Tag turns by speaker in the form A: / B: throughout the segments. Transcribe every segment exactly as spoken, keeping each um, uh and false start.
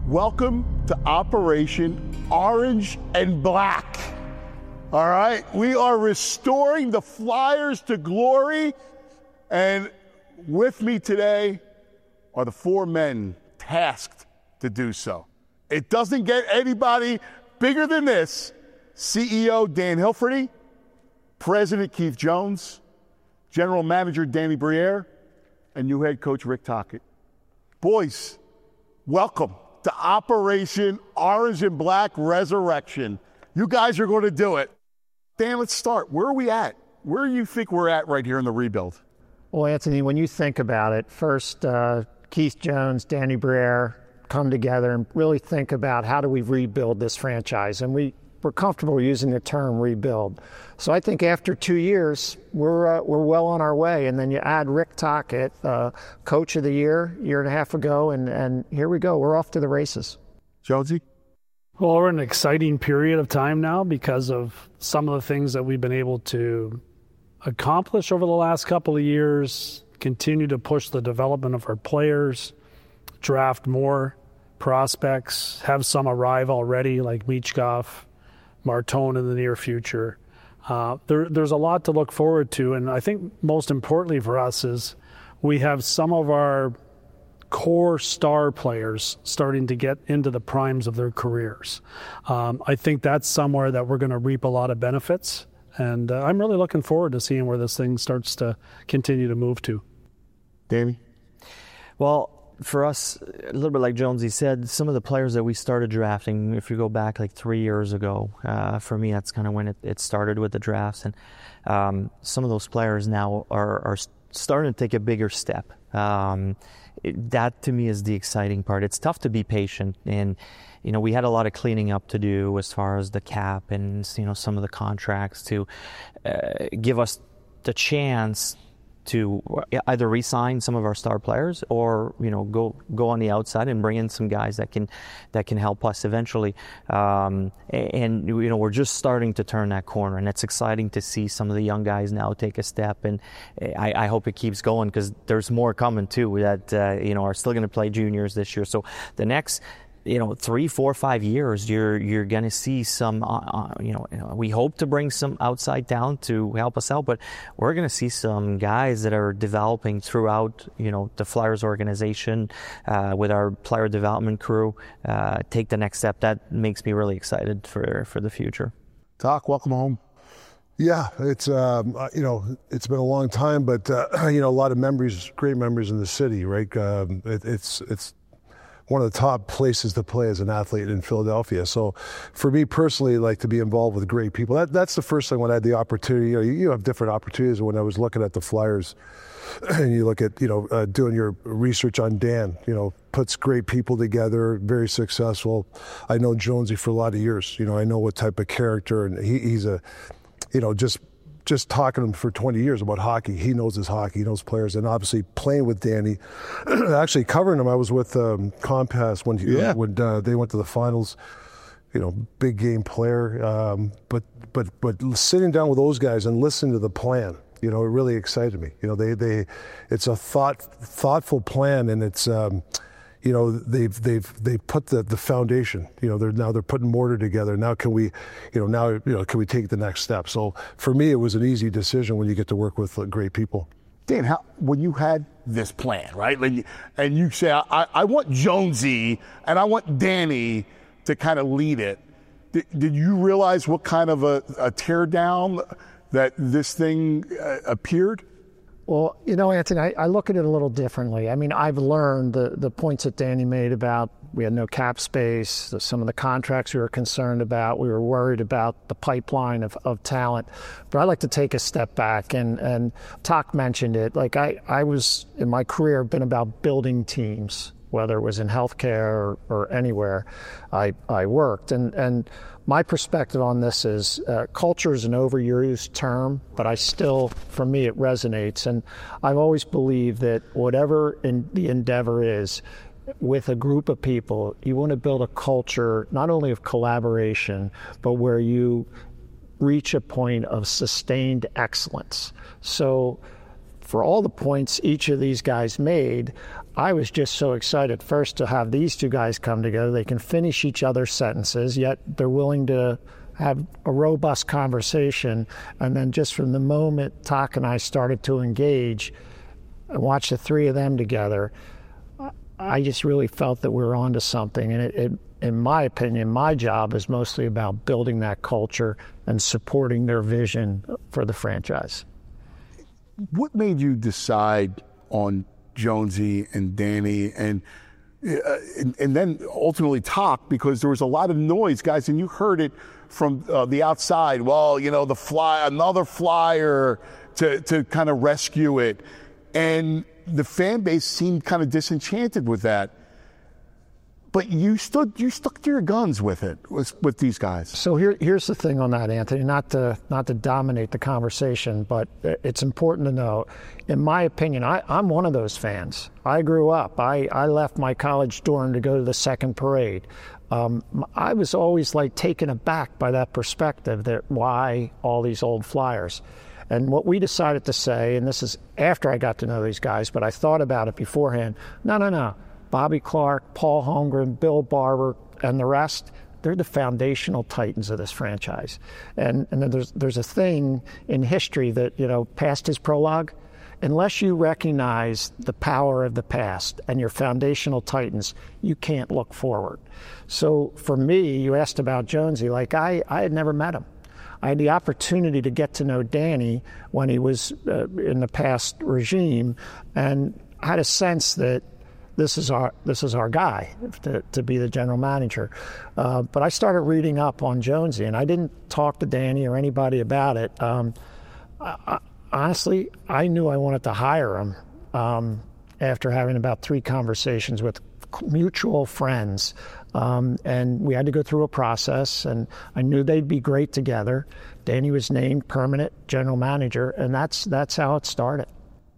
A: Welcome to Operation Orange and Black. All right, we are restoring the Flyers to glory, and with me today are the four men tasked to do so. It doesn't get anybody bigger than this. C E O Dan Hilferty, President Keith Jones, General Manager Danny Briere, and new head coach Rick Tocchet. Boys, welcome to Operation Orange and Black Resurrection. You guys are going to do it. Dan, let's start. Where are we at? Where do you think we're at right here in the rebuild?
B: Well, Anthony, when you think about it, first uh, Keith Jones, Danny Briere come together and really think about how do we rebuild this franchise. And we, we're comfortable using the term rebuild. So I think after two years, we're uh, we're well on our way. And then you add Rick Tocchet, uh, Coach of the Year, year and a half ago, and, and here we go. We're off to the races.
A: Jonesy?
C: Well, we're in an exciting period of time now because of some of the things that we've been able to accomplish over the last couple of years, continue to push the development of our players, draft more prospects, have some arrive already like Michkov, Martone in the near future. Uh, there, there's a lot to look forward to, and I think most importantly for us is we have some of our core star players starting to get into the primes of their careers. Um, I think that's somewhere that we're going to reap a lot of benefits, and uh, I'm really looking forward to seeing where this thing starts to continue to move to.
A: Danny?
D: Well, for us, a little bit like Jonesy said, some of the players that we started drafting, if you go back like three years ago, uh, for me, that's kind of when it, it started with the drafts. And um, some of those players now are, are starting to take a bigger step. Um, it, that, to me, is the exciting part. It's tough to be patient. And, you know, we had a lot of cleaning up to do as far as the cap and, you know, some of the contracts to uh, give us the chance to either re-sign some of our star players or, you know, go go on the outside and bring in some guys that can that can help us eventually. Um, and, you know, we're just starting to turn that corner, and it's exciting to see some of the young guys now take a step. And I, I hope it keeps going because there's more coming too that, uh, you know, are still going to play juniors this year. So the next, you know, three, four, five years, you're you're going to see some, uh, uh, you, know, you know, we hope to bring some outside talent to help us out, but we're going to see some guys that are developing throughout, you know, the Flyers organization uh, with our player development crew uh, take the next step. That makes me really excited for, for the future.
A: Doc, welcome home.
E: Yeah, it's, um, you know, it's been a long time, but, uh, you know, a lot of memories, great memories in the city, right? Um, it, it's, it's, one of the top places to play as an athlete in Philadelphia. So for me personally, like to be involved with great people, that, that's the first thing when I had the opportunity. You know, you, you have different opportunities. When I was looking at the Flyers and you look at, you know, uh, doing your research on Dan, you know, puts great people together, very successful. I know Jonesy for a lot of years. You know, I know what type of character, and he, he's a, you know, just just talking to him for twenty years about hockey. He knows his hockey, he knows players, and obviously playing with Danny, actually covering him. I was with um, Compass when, he,
A: yeah.
E: when uh, they went to the finals. You know, big game player, um, but but but sitting down with those guys and listening to the plan, you know, it really excited me. You know, they they, it's a thought thoughtful plan, and it's. Um, You know, they've they've they put the, the foundation. You know, they're now they're putting mortar together. Now can we, you know, now you know can we take the next step? So for me, it was an easy decision when you get to work with great people.
A: Dan, how when you had this plan, right? Like, and you say, I, I want Jonesy and I want Danny to kind of lead it. Did, did you realize what kind of a, a teardown that this thing uh, appeared?
B: Well, you know, Anthony, I, I look at it a little differently. I mean, I've learned the, the points that Danny made about we had no cap space, the, some of the contracts we were concerned about, we were worried about the pipeline of, of talent. But I like to take a step back, and, and Toc mentioned it. Like I, I was, in my career, been about building teams, whether it was in healthcare or, or anywhere I, I worked. And, and my perspective on this is uh, culture is an overused term, but I still, for me, it resonates. And I've always believed that whatever in the endeavor is, with a group of people, you want to build a culture not only of collaboration, but where you reach a point of sustained excellence. So for all the points each of these guys made, I was just so excited first to have these two guys come together. They can finish each other's sentences, yet they're willing to have a robust conversation. And then just from the moment Talk and I started to engage and watch the three of them together, I just really felt that we were onto something. And it, it, in my opinion, my job is mostly about building that culture and supporting their vision for the franchise.
A: What made you decide on Jonesy and Danny and, uh, and and then ultimately Talk? Because there was a lot of noise, guys, and you heard it from uh, the outside. Well, you know, the fly, another flyer to to kind of rescue it, and the fan base seemed kind of disenchanted with that. But you stood, you stuck to your guns with it, with, with these guys.
B: So here, here's the thing on that, Anthony. Not to not to dominate the conversation, but it's important to know. In my opinion, I, I'm one of those fans. I grew up. I, I left my college dorm to go to the second parade. Um, I was always like taken aback by that perspective. That why all these old Flyers. And what we decided to say, and this is after I got to know these guys, but I thought about it beforehand. No, no, no. Bobby Clarke, Paul Holmgren, Bill Barber, and the rest, they're the foundational titans of this franchise. And, and there's, there's a thing in history that, you know, past his prologue, unless you recognize the power of the past and your foundational titans, you can't look forward. So for me, you asked about Jonesy, like I, I had never met him. I had the opportunity to get to know Danny when he was uh, in the past regime, and I had a sense that this is our this is our guy to, to be the general manager. Uh, but I started reading up on Jonesy, and I didn't talk to Danny or anybody about it. Um, I, I, honestly, I knew I wanted to hire him um, after having about three conversations with mutual friends. Um, and we had to go through a process, and I knew they'd be great together. Danny was named permanent general manager, and that's that's how it started.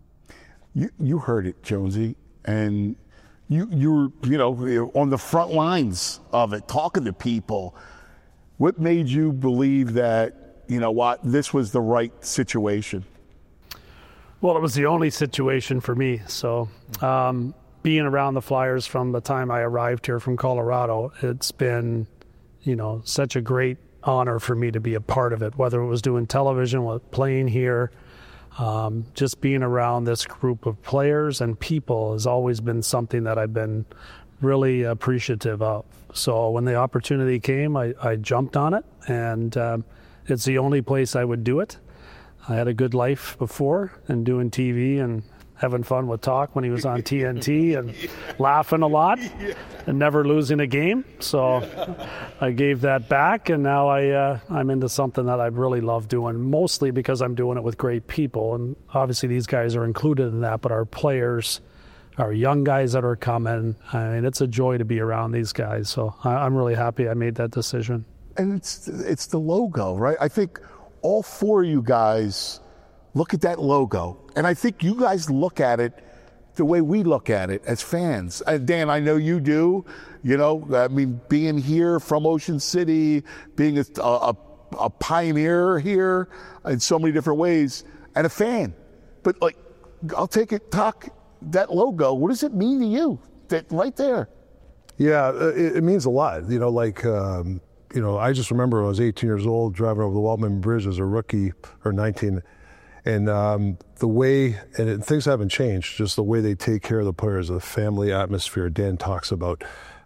A: You you heard it, Jonesy, and you you were you know on the front lines of it, talking to people. What made you believe that you know what this was the right situation?
C: Well, it was the only situation for me. So. Um, Being around the Flyers from the time I arrived here from Colorado, it's been, you know, such a great honor for me to be a part of it, whether it was doing television, playing here, um, just being around this group of players and people has always been something that I've been really appreciative of. So when the opportunity came, I, I jumped on it, and um, it's the only place I would do it. I had a good life before and doing T V and having fun with Talk when he was on T N T and laughing a lot and never losing a game. So I gave that back, and now I, uh, I'm into something that I really love doing, mostly because I'm doing it with great people. And obviously these guys are included in that, but our players, our young guys that are coming, I mean, it's a joy to be around these guys. So I, I'm really happy I made that decision.
A: And it's it's the logo, right? I think all four of you guys look at that logo, and I think you guys look at it the way we look at it as fans. Uh, Dan, I know you do. You know, I mean, being here from Ocean City, being a, a, a pioneer here in so many different ways, and a fan. But like, I'll take it, Talk, that logo, what does it mean to you? That right there.
E: Yeah, it, it means a lot. You know, like, um, you know, I just remember I was eighteen years old driving over the Waltman Bridge as a rookie, or nineteen. And um, the way, and it, things haven't changed, just the way they take care of the players, the family atmosphere Dan talks about.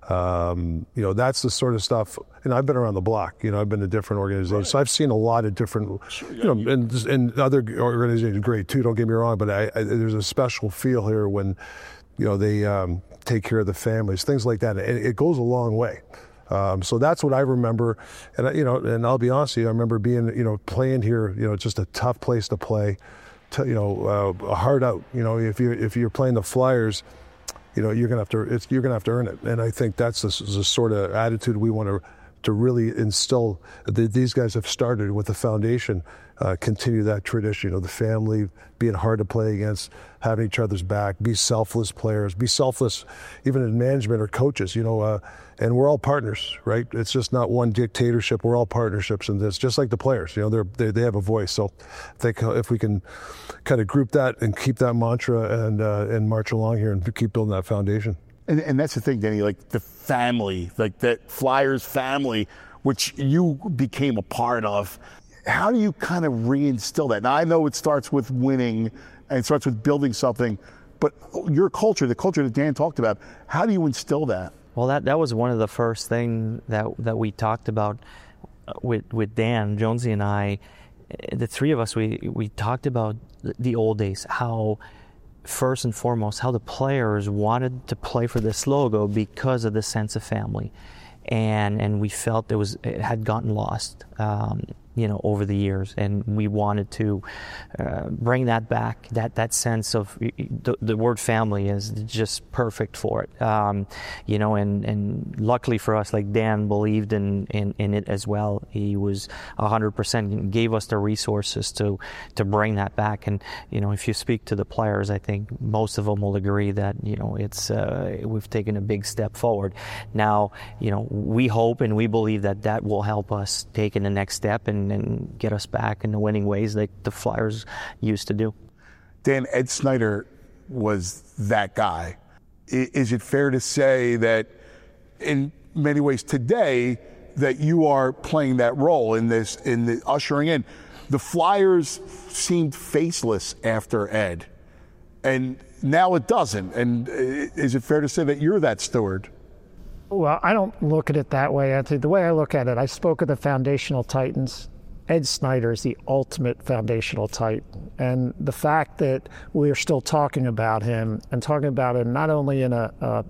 E: Um, you know, that's the sort of stuff, and I've been around the block, you know, I've been to different organizations. Right. So I've seen a lot of different, sure, you know, you. And, and other organizations are great too, don't get me wrong, but I, I, there's a special feel here when, you know, they um, take care of the families, things like that. And it goes a long way. Um, so that's what I remember, and you know, and I'll be honest with you, I remember being, you know, playing here, you know, just a tough place to play, to, you know, uh, hard out. You know, if you if you're playing the Flyers, you know, you're gonna have to, it's, you're gonna have to earn it. And I think that's the, the sort of attitude we want to to really instill. That these guys have started with the foundation uh, continue that tradition. You know, the family, being hard to play against, having each other's back, be selfless players, be selfless even in management or coaches, you know, uh, and we're all partners, right? It's just not one dictatorship. We're all partnerships in this, just like the players. You know, they're, they they have a voice. So I think if we can kind of group that and keep that mantra and uh, and march along here and keep building that foundation.
A: And, and that's the thing, Danny, like the family, like that Flyers family, which you became a part of. How do you kind of reinstill that? Now, I know it starts with winning and it starts with building something, but your culture, the culture that Dan talked about, how do you instill that?
D: Well, that, that was one of the first things that that we talked about with with Dan, Jonesy and I. The three of us, we, we talked about the old days, how first and foremost, how the players wanted to play for this logo because of the sense of family. And and we felt it was it had gotten lost, um, you know, over the years, and we wanted to uh, bring that back. That that sense of the, the word family is just perfect for it, um, you know. And, and luckily for us, like Dan believed in, in, in it as well. He was a hundred percent, gave us the resources to to bring that back. And you know, if you speak to the players, I think most of them will agree that you know it's uh, we've taken a big step forward. Now, you know. We hope and we believe that that will help us take in the next step and, and get us back in the winning ways like the Flyers used to do.
A: Dan, Ed Snider was that guy. Is it fair to say that in many ways today that you are playing that role in this, in the ushering in? The Flyers seemed faceless after Ed, and now it doesn't. And is it fair to say that you're that steward?
B: Well, I don't look at it that way, Anthony. The way I look at it, I spoke of the foundational titans. Ed Snider is the ultimate foundational titan. And the fact that we are still talking about him and talking about him not only in a, a,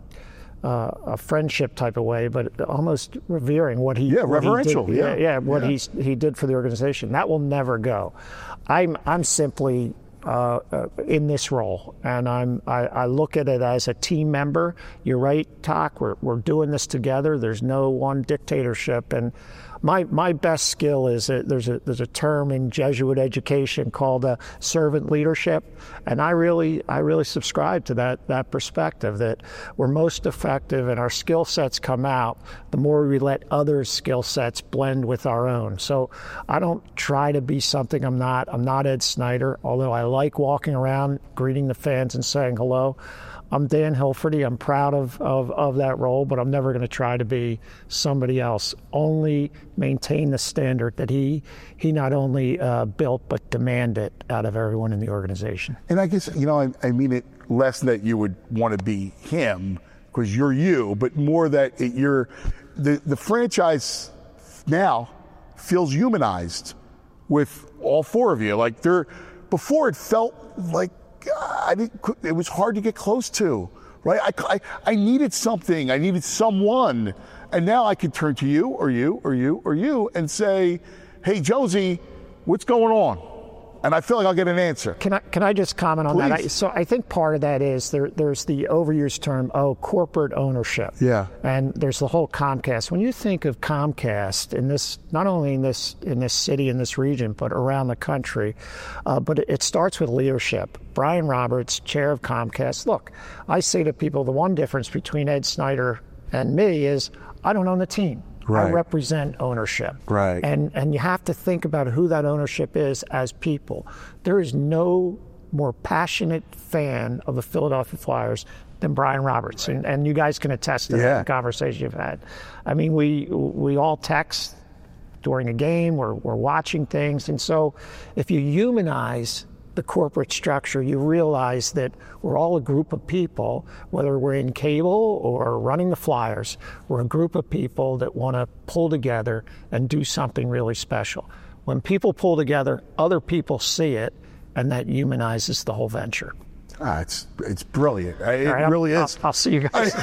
B: a friendship type of way, but almost revering what he
A: yeah
B: what
A: reverential
B: he did,
A: yeah
B: yeah, yeah what
A: yeah.
B: he's he did for the organization. That will never go. I'm I'm simply Uh, uh, in this role, and I'm I, I look at it as a team member. You're right, Talk. We're we're doing this together. There's no one dictatorship, and my my best skill is that there's a there's a term in Jesuit education called uh, servant leadership, and I really I really subscribe to that that perspective that we're most effective and our skill sets come out the more we let others' skill sets blend with our own. So I don't try to be something I'm not. I'm not Ed Snider, although I like walking around, greeting the fans and saying hello. I'm Dan Hilferty. I'm proud of, of, of that role, but I'm never going to try to be somebody else. Only maintain the standard that he he not only uh, built, but demanded out of everyone in the organization.
A: And I guess, you know, I, I mean it less that you would want to be him, because you're you, but more that it, you're, the, the franchise now feels humanized with all four of you. Like they're, before it felt like, I didn't, it was hard to get close to, right? I, I, I needed something. I needed someone. And now I could turn to you or you or you or you and say, hey, Josie, what's going on? And I feel like I'll get an answer.
B: Can I can I just comment on
A: Please.
B: that? I, so I think part of that is there there's the overused term, oh, corporate ownership.
A: Yeah.
B: And there's the whole Comcast. When you think of Comcast in this, not only in this in this city, in this region, but around the country, uh, but it, it starts with leadership. Brian Roberts, chair of Comcast. Look, I say to people, the one difference between Ed Snider and me is I don't own the team.
A: Right.
B: I represent ownership.
A: Right.
B: And and you have to think about who that ownership is as people. There is no more passionate fan of the Philadelphia Flyers than Brian Roberts. And, and you guys can attest to
A: Yeah.
B: that conversation you've had. I mean, we we all text during a game, we're, we're watching things. And so if you humanize the corporate structure, you realize that we're all a group of people, whether we're in cable or running the Flyers, we're a group of people that want to pull together and do something really special. When people pull together, other people see it, and that humanizes the whole venture.
A: Ah, it's it's brilliant. It
B: All right,
A: really
B: I'll,
A: is.
B: I'll, I'll see you guys.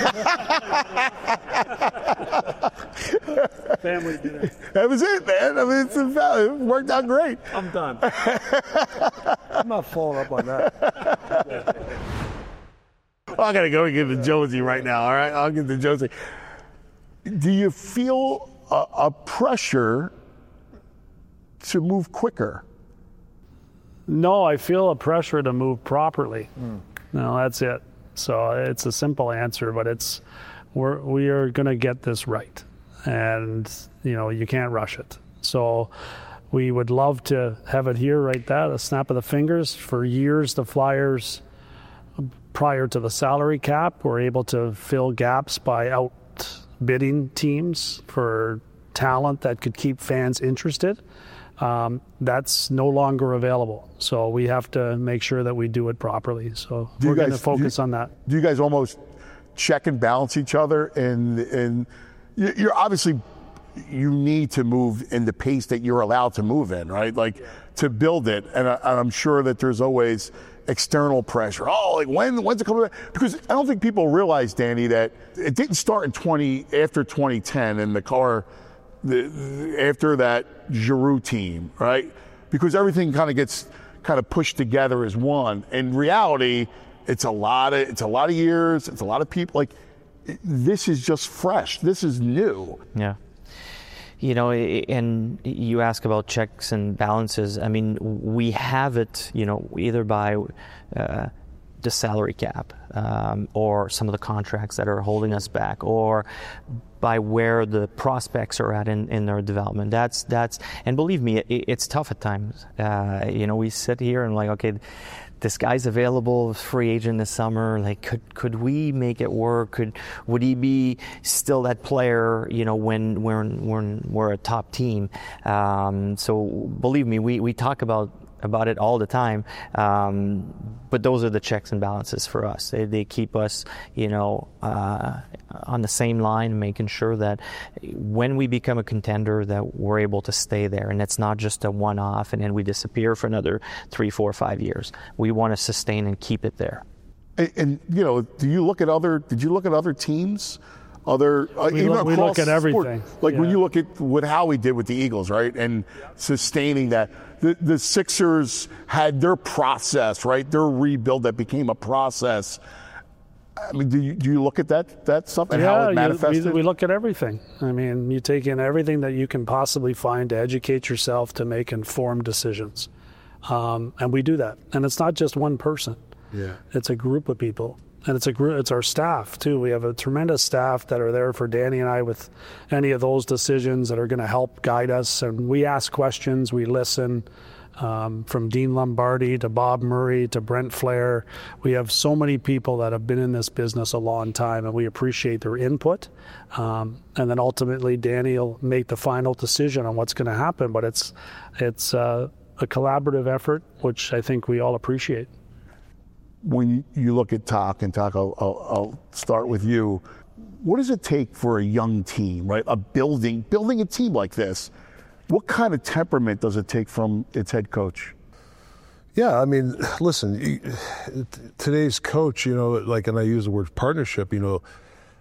C: Family dinner.
A: That was it, man. I mean, it's a, it worked out great.
F: I'm done. I'm not following up on that.
A: Well, I got to go and get to Josie right now, all right? I'll get to Josie. Do you feel a, a pressure to move quicker?
C: No, I feel a pressure to move properly. Mm. No, that's it. So it's a simple answer, but it's we're we are going to get this right, and you know you can't rush it. So we would love to have it here right there, a snap of the fingers. For years, the Flyers, prior to the salary cap, were able to fill gaps by outbidding teams for talent that could keep fans interested. Um, that's no longer available. So we have to make sure that we do it properly. So
A: do
C: we're going to
A: guys,
C: focus
A: you,
C: on that.
A: Do you guys almost check and balance each other? And, and you're obviously, you need to move in the pace that you're allowed to move in, right? Like to build it. And, I, and I'm sure that there's always external pressure. Oh, like when, when's it coming back? Because I don't think people realize, Danny, that it didn't start in twenty, after twenty ten and the car, The, after that Giroux team, right? Because everything kind of gets kind of pushed together as one. In reality, it's a lot of it's a lot of years, it's a lot of people. Like this is just fresh. This is new.
D: Yeah. You know, and you ask about checks and balances. I mean, we have it, you know, either by uh, the salary cap um, or some of the contracts that are holding us back, or by where the prospects are at in, in their development. That's that's and believe me, it, it's tough at times. Uh, you know, we sit here and like, okay, this guy's available, free agent this summer. Like, could could we make it work? Could would he be still that player? You know, when when when we're a top team. Um, so believe me, we we talk about. about it all the time, um, but those are the checks and balances for us. They, they keep us, you know, uh, on the same line, making sure that when we become a contender, that we're able to stay there, and it's not just a one-off, and then we disappear for another three, four, five years. We want to sustain and keep it there.
A: And, and you know, do you look at other? Did you look at other teams? Other, uh,
C: we,
A: even
C: look, we look at everything.
A: Sport. Like
C: yeah.
A: when you look at what Howie did with the Eagles, right, and yeah. sustaining that. The, the Sixers had their process, right, their rebuild that became a process. I mean, do you, do you look at that that stuff and
C: yeah,
A: how it manifested?
C: You, we, we look at everything. I mean, you take in everything that you can possibly find to educate yourself to make informed decisions, um, and we do that. And it's not just one person.
A: Yeah,
C: it's a group of people. And it's a group, it's our staff too. We have a tremendous staff that are there for Danny and I with any of those decisions that are going to help guide us. And we ask questions, we listen. Um, from Dean Lombardi to Bob Murray to Brent Flair, we have so many people that have been in this business a long time, and we appreciate their input. Um, and then ultimately, Danny will make the final decision on what's going to happen. But it's it's uh, a collaborative effort, which I think we all appreciate.
A: When you look at Talk, and Talk, I'll, I'll, I'll start with you. What does it take for a young team, right? A building, building a team like this. What kind of temperament does it take from its head coach?
E: Yeah, I mean, listen, today's coach, you know, like, and I use the word partnership, you know,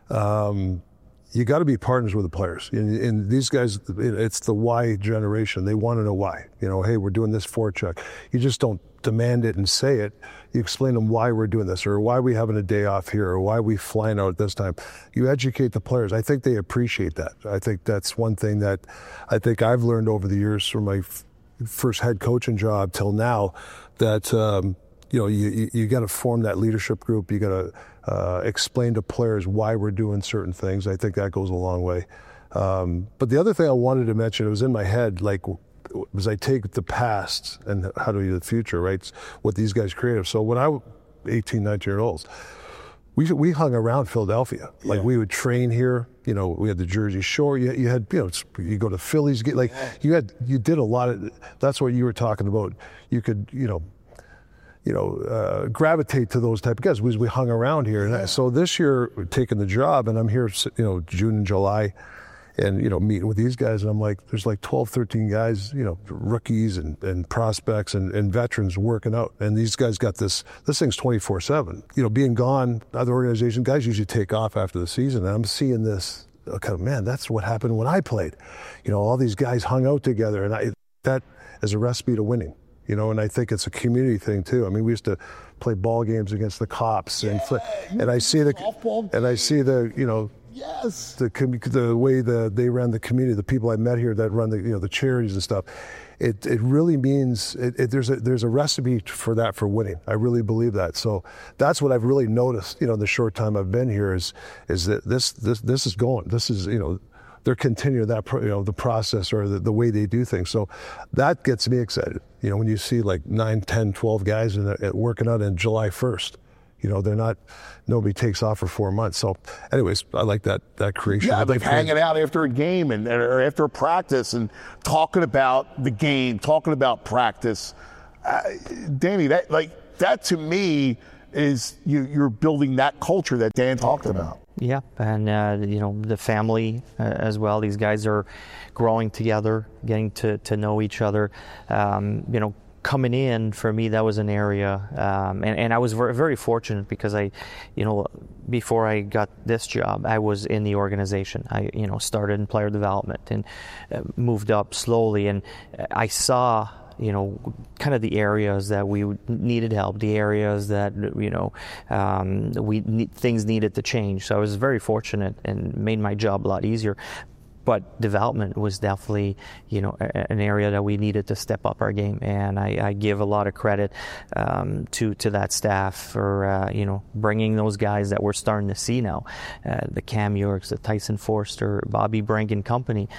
E: um, you got to be partners with the players. And, and these guys, it's the why generation. They want to know why. You know, hey, we're doing this forecheck. You just don't demand it and say it. You explain to them why we're doing this, or why are we having a day off here, or why are we flying out at this time. You educate the players. I think they appreciate that. I think that's one thing that I think I've learned over the years from my f- first head coaching job till now, that um, you know, you, you, you got to form that leadership group. You got to uh, explain to players why we're doing certain things. I think that goes a long way. Um, but the other thing I wanted to mention, it was in my head, like, was I take the past and how do we do the future, right? What these guys created. So when I was eighteen, nineteen year olds, we we hung around Philadelphia. Like, yeah. We would train here. You know, we had the Jersey Shore. You, you had, you know, you go to Phillies. Get like you had, you did a lot of. That's what you were talking about. You could, you know, you know, uh, gravitate to those type of guys because we hung around here. And I, so this year, taking the job, and I'm here, you know, June and July. And, you know, meeting with these guys, and I'm like, there's like twelve, thirteen guys, you know, rookies and, and prospects and, and veterans working out. And these guys got this, this thing's twenty-four seven. You know, being gone, other organizations, guys usually take off after the season. And I'm seeing this, okay, man, that's what happened when I played. You know, all these guys hung out together, and I, that is a recipe to winning. You know, and I think it's a community thing too. I mean, we used to play ball games against the Cops, and yeah, and I see the, and I see the, you know,
A: Yes.
E: The the way the they run the community, the people I met here that run the you know the charities and stuff, it it really means it, it, there's a there's a recipe for that for winning. I really believe that. So that's what I've really noticed. You know, the short time I've been here is is that this this this is going. This is you know. They're continuing that, you know, the process or the, the way they do things. So that gets me excited. You know, when you see like nine, ten, twelve guys in the, working out on July first, you know, they're not, nobody takes off for four months. So anyways, I like that, that creation.
A: Yeah,
E: like
A: like hanging out after a game and or after a practice and talking about the game, talking about practice. Uh, Danny, that like that to me is you, you're building that culture that Dan talked about.
D: Yeah, and uh, you know the family uh, as well. These guys are growing together, getting to, to know each other. Um, you know, coming in for me, that was an area, um, and and I was very, very fortunate because I, you know, before I got this job, I was in the organization. I you know started in player development and uh, moved up slowly, and I saw. You know, kind of the areas that we needed help, the areas that, you know, um, we ne- things needed to change. So I was very fortunate and made my job a lot easier. But development was definitely, you know, a, an area that we needed to step up our game. And I, I give a lot of credit um, to to that staff for, uh, you know, bringing those guys that we're starting to see now, uh, the Cam Yorks, the Tyson Forster, Bobby Brink and company.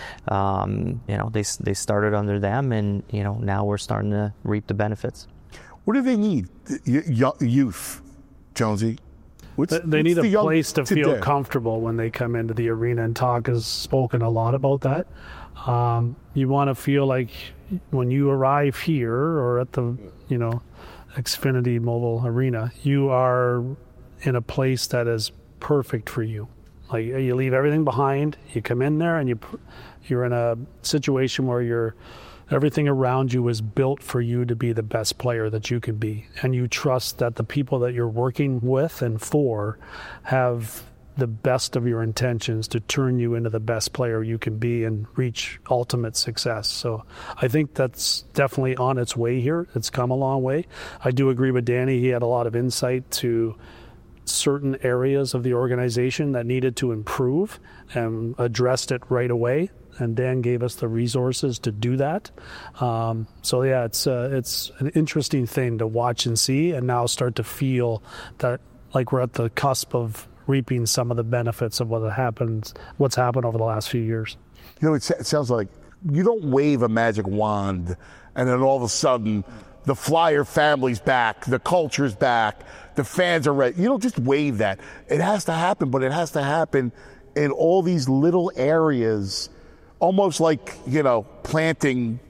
D: Um, you know, they they started under them, and you know now we're starting to reap the benefits.
A: What do they need? Y- youth, Jonesy. What's,
C: they they
A: what's
C: need
A: the
C: a
A: young
C: place to
A: today?
C: feel comfortable when they come into the arena, and Talk has spoken a lot about that. Um, you want to feel like when you arrive here or at the, you know, Xfinity Mobile Arena, you are in a place that is perfect for you. Like you leave everything behind, you come in there, and you you're in a situation where you're everything around you is built for you to be the best player that you can be. And you trust that the people that you're working with and for have the best of your intentions to turn you into the best player you can be and reach ultimate success. So I think that's definitely on its way here. It's come a long way. I do agree with Danny. He had a lot of insight to certain areas of the organization that needed to improve and addressed it right away. And Dan gave us the resources to do that. Um, so yeah, it's uh, it's an interesting thing to watch and see, and now start to feel that like we're at the cusp of reaping some of the benefits of what happens, what's happened over the last few years.
A: You know, it, it sounds like you don't wave a magic wand, and then all of a sudden, the Flyer family's back, the culture's back, the fans are ready. You don't just wave that. It has to happen, but it has to happen in all these little areas. Almost like, you know, planting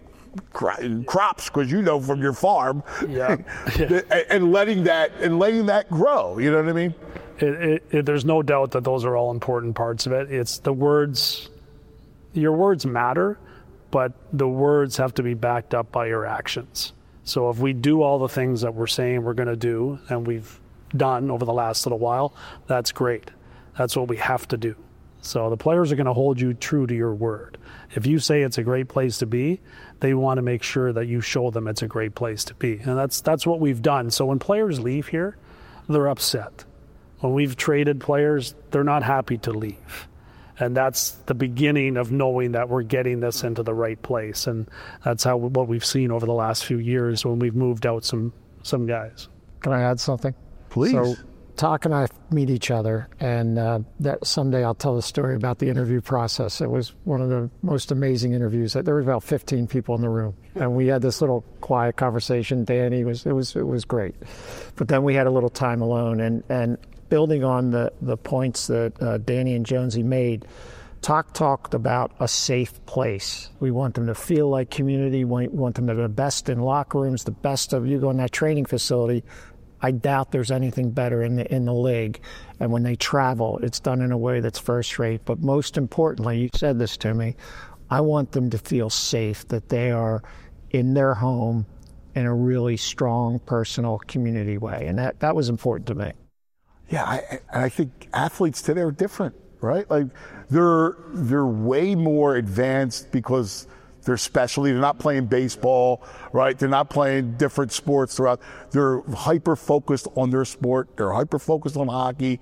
A: crops, because you know from your farm,
C: yeah. yeah.
A: and letting that and letting that grow. You know what I mean?
C: It, it, it, there's no doubt that those are all important parts of it. It's the words. Your words matter, but the words have to be backed up by your actions. So if we do all the things that we're saying we're going to do, and we've done over the last little while, that's great. That's what we have to do. So the players are going to hold you true to your word. If you say it's a great place to be, they want to make sure that you show them it's a great place to be. And that's that's what we've done. So when players leave here, they're upset. When we've traded players, they're not happy to leave. And that's the beginning of knowing that we're getting this into the right place. And that's how what we've seen over the last few years when we've moved out some some guys.
B: Can I add something?
A: Please.
B: So, Talk and I meet each other, and uh, that someday I'll tell the story about the interview process. It was one of the most amazing interviews. There were about fifteen people in the room, and we had this little quiet conversation. Danny was it was it was great, but then we had a little time alone, and and building on the the points that uh, Danny and Jonesy made. Talk talked about a safe place. We want them to feel like community. We want them to be the best in locker rooms, the best of you go in that training facility. I doubt there's anything better in the in the league. And when they travel, it's done in a way that's first rate. But most importantly, you said this to me, I want them to feel safe, that they are in their home in a really strong, personal community way. And that, that was important to me.
A: Yeah, I, I think athletes today are different, right? Like they're they're way more advanced because they're specialty. They're not playing baseball, right? They're not playing different sports throughout. They're hyper-focused on their sport. They're hyper-focused on hockey.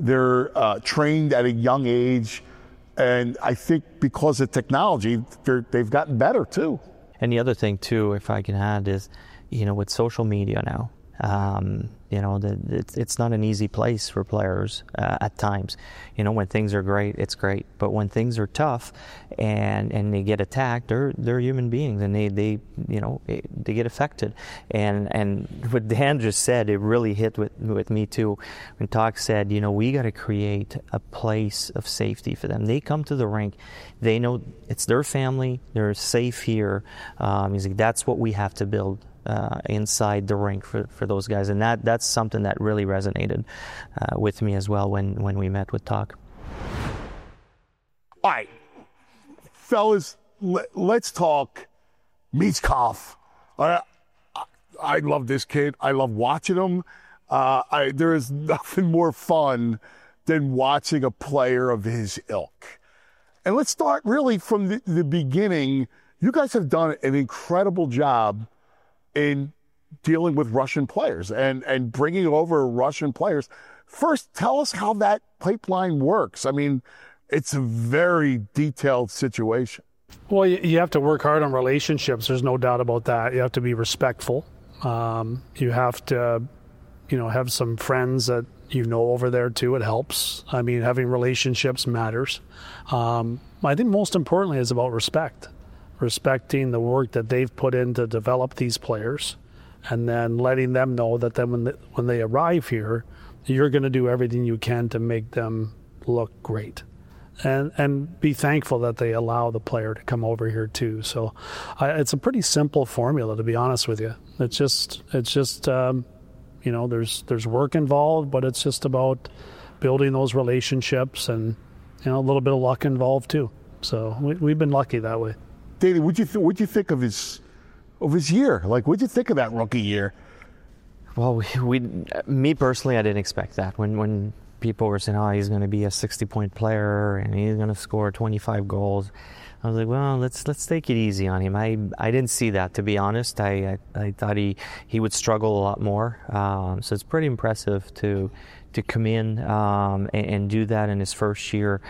A: They're uh, trained at a young age. And I think because of technology, they're, they've gotten better too.
D: And the other thing too, if I can add, is, you know, with social media now, um, you know, the, it's, it's not an easy place for players uh, at times. You know, when things are great, it's great. But when things are tough and, and they get attacked, they're they're human beings, and they, they you know, they get affected. And and what Dan just said, it really hit with, with me too. When Talk said, you know, we got to create a place of safety for them. They come to the rink, they know it's their family, they're safe here. Um, he's like, that's what we have to build Uh, inside the rink for, for those guys, and that that's something that really resonated uh, with me as well when, when we met with Talk.
A: All right, fellas, let, let's talk Michkov. Uh, I, I love this kid. I love watching him. Uh, I, there is nothing more fun than watching a player of his ilk. And let's start really from the, the beginning. You guys have done an incredible job in dealing with Russian players and, and bringing over Russian players. First, tell us how that pipeline works. I mean, it's a very detailed situation.
C: Well, you have to work hard on relationships. There's no doubt about that. You have to be respectful. Um, you have to, you know, have some friends that you know over there too. It helps. I mean, having relationships matters. Um, I think most importantly is about respect. Respecting the work that they've put in to develop these players, and then letting them know that then when they, when they arrive here, you're going to do everything you can to make them look great, and and be thankful that they allow the player to come over here too. So I, it's a pretty simple formula, to be honest with you. It's just it's just um, you know, there's there's work involved, but it's just about building those relationships, and you know, a little bit of luck involved too. So we, we've been lucky that way.
A: Danny, what'd you th- what'd you think of his of his year? Like, what'd you think of that rookie year?
D: Well, we, we me personally, I didn't expect that. When when people were saying, "Oh, he's going to be a sixty-point player and he's going to score twenty-five goals," I was like, "Well, let's let's take it easy on him." I I didn't see that, to be honest. I I, I thought he, he would struggle a lot more. Um, so it's pretty impressive to to come in um, and, and do that in his first year.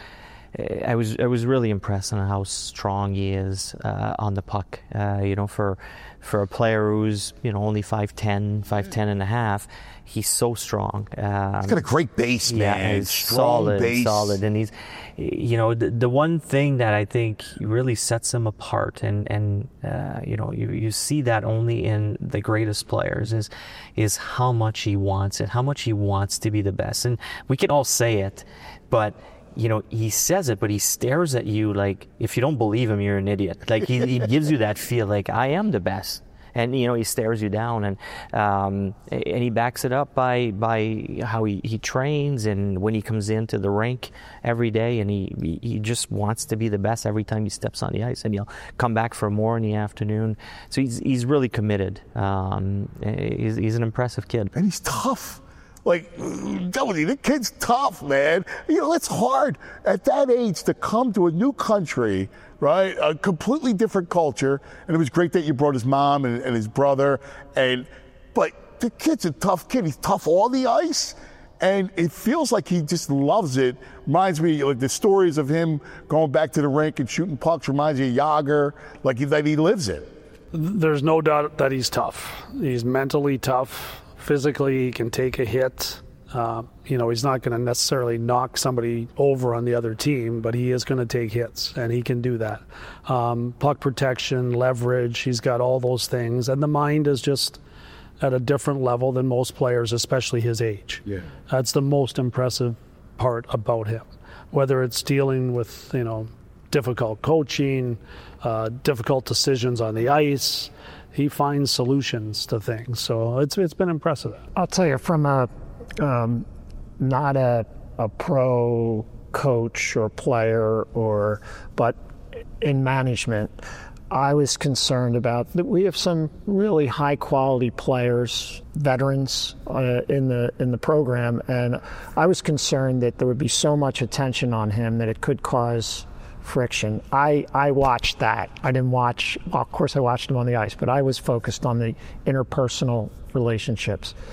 D: I was I was really impressed on how strong he is uh, on the puck. Uh, you know, for for a player who's, you know, only five ten, five ten and a half, he's so strong. Um,
A: he's got a great base, man.
D: Yeah, he's
A: strong
D: solid,
A: base.
D: solid, and he's, you know, the, the one thing that I think really sets him apart, and and uh, you know, you you see that only in the greatest players, is is how much he wants it, how much he wants to be the best, and we can all say it, but you know, he says it, but he stares at you like, if you don't believe him, you're an idiot. Like, he, he gives you that feel like, I am the best. And, you know, he stares you down, and um, and he backs it up by by how he, he trains, and when he comes into the rink every day, and he, he just wants to be the best every time he steps on the ice, and he'll come back for more in the afternoon. So he's he's really committed. Um, he's, he's an impressive kid.
A: And he's tough. Like, Tony, the kid's tough, man. You know, it's hard at that age to come to a new country, right? A completely different culture. And it was great that you brought his mom and, and his brother. And but the kid's a tough kid. He's tough on the ice. And it feels like he just loves it. Reminds me, like, the stories of him going back to the rink and shooting pucks reminds me of Yager, like that he lives it.
C: There's no doubt that he's tough. He's mentally tough. Physically, he can take a hit. Uh, you know, he's not going to necessarily knock somebody over on the other team, but he is going to take hits, and he can do that. Um, puck protection, leverage, he's got all those things. And the mind is just at a different level than most players, especially his age.
A: Yeah.
C: That's the most impressive part about him. Whether it's dealing with, you know, difficult coaching, uh, difficult decisions on the ice, he finds solutions to things. So it's it's been impressive.
B: I'll tell you, from a um, not a a pro coach or player, or but in management, I was concerned about that. We have some really high quality players, veterans uh, in the in the program, and I was concerned that there would be so much attention on him that it could cause friction. I, I watched that. I didn't watch, well, of course I watched him on the ice, but I was focused on the interpersonal relationships.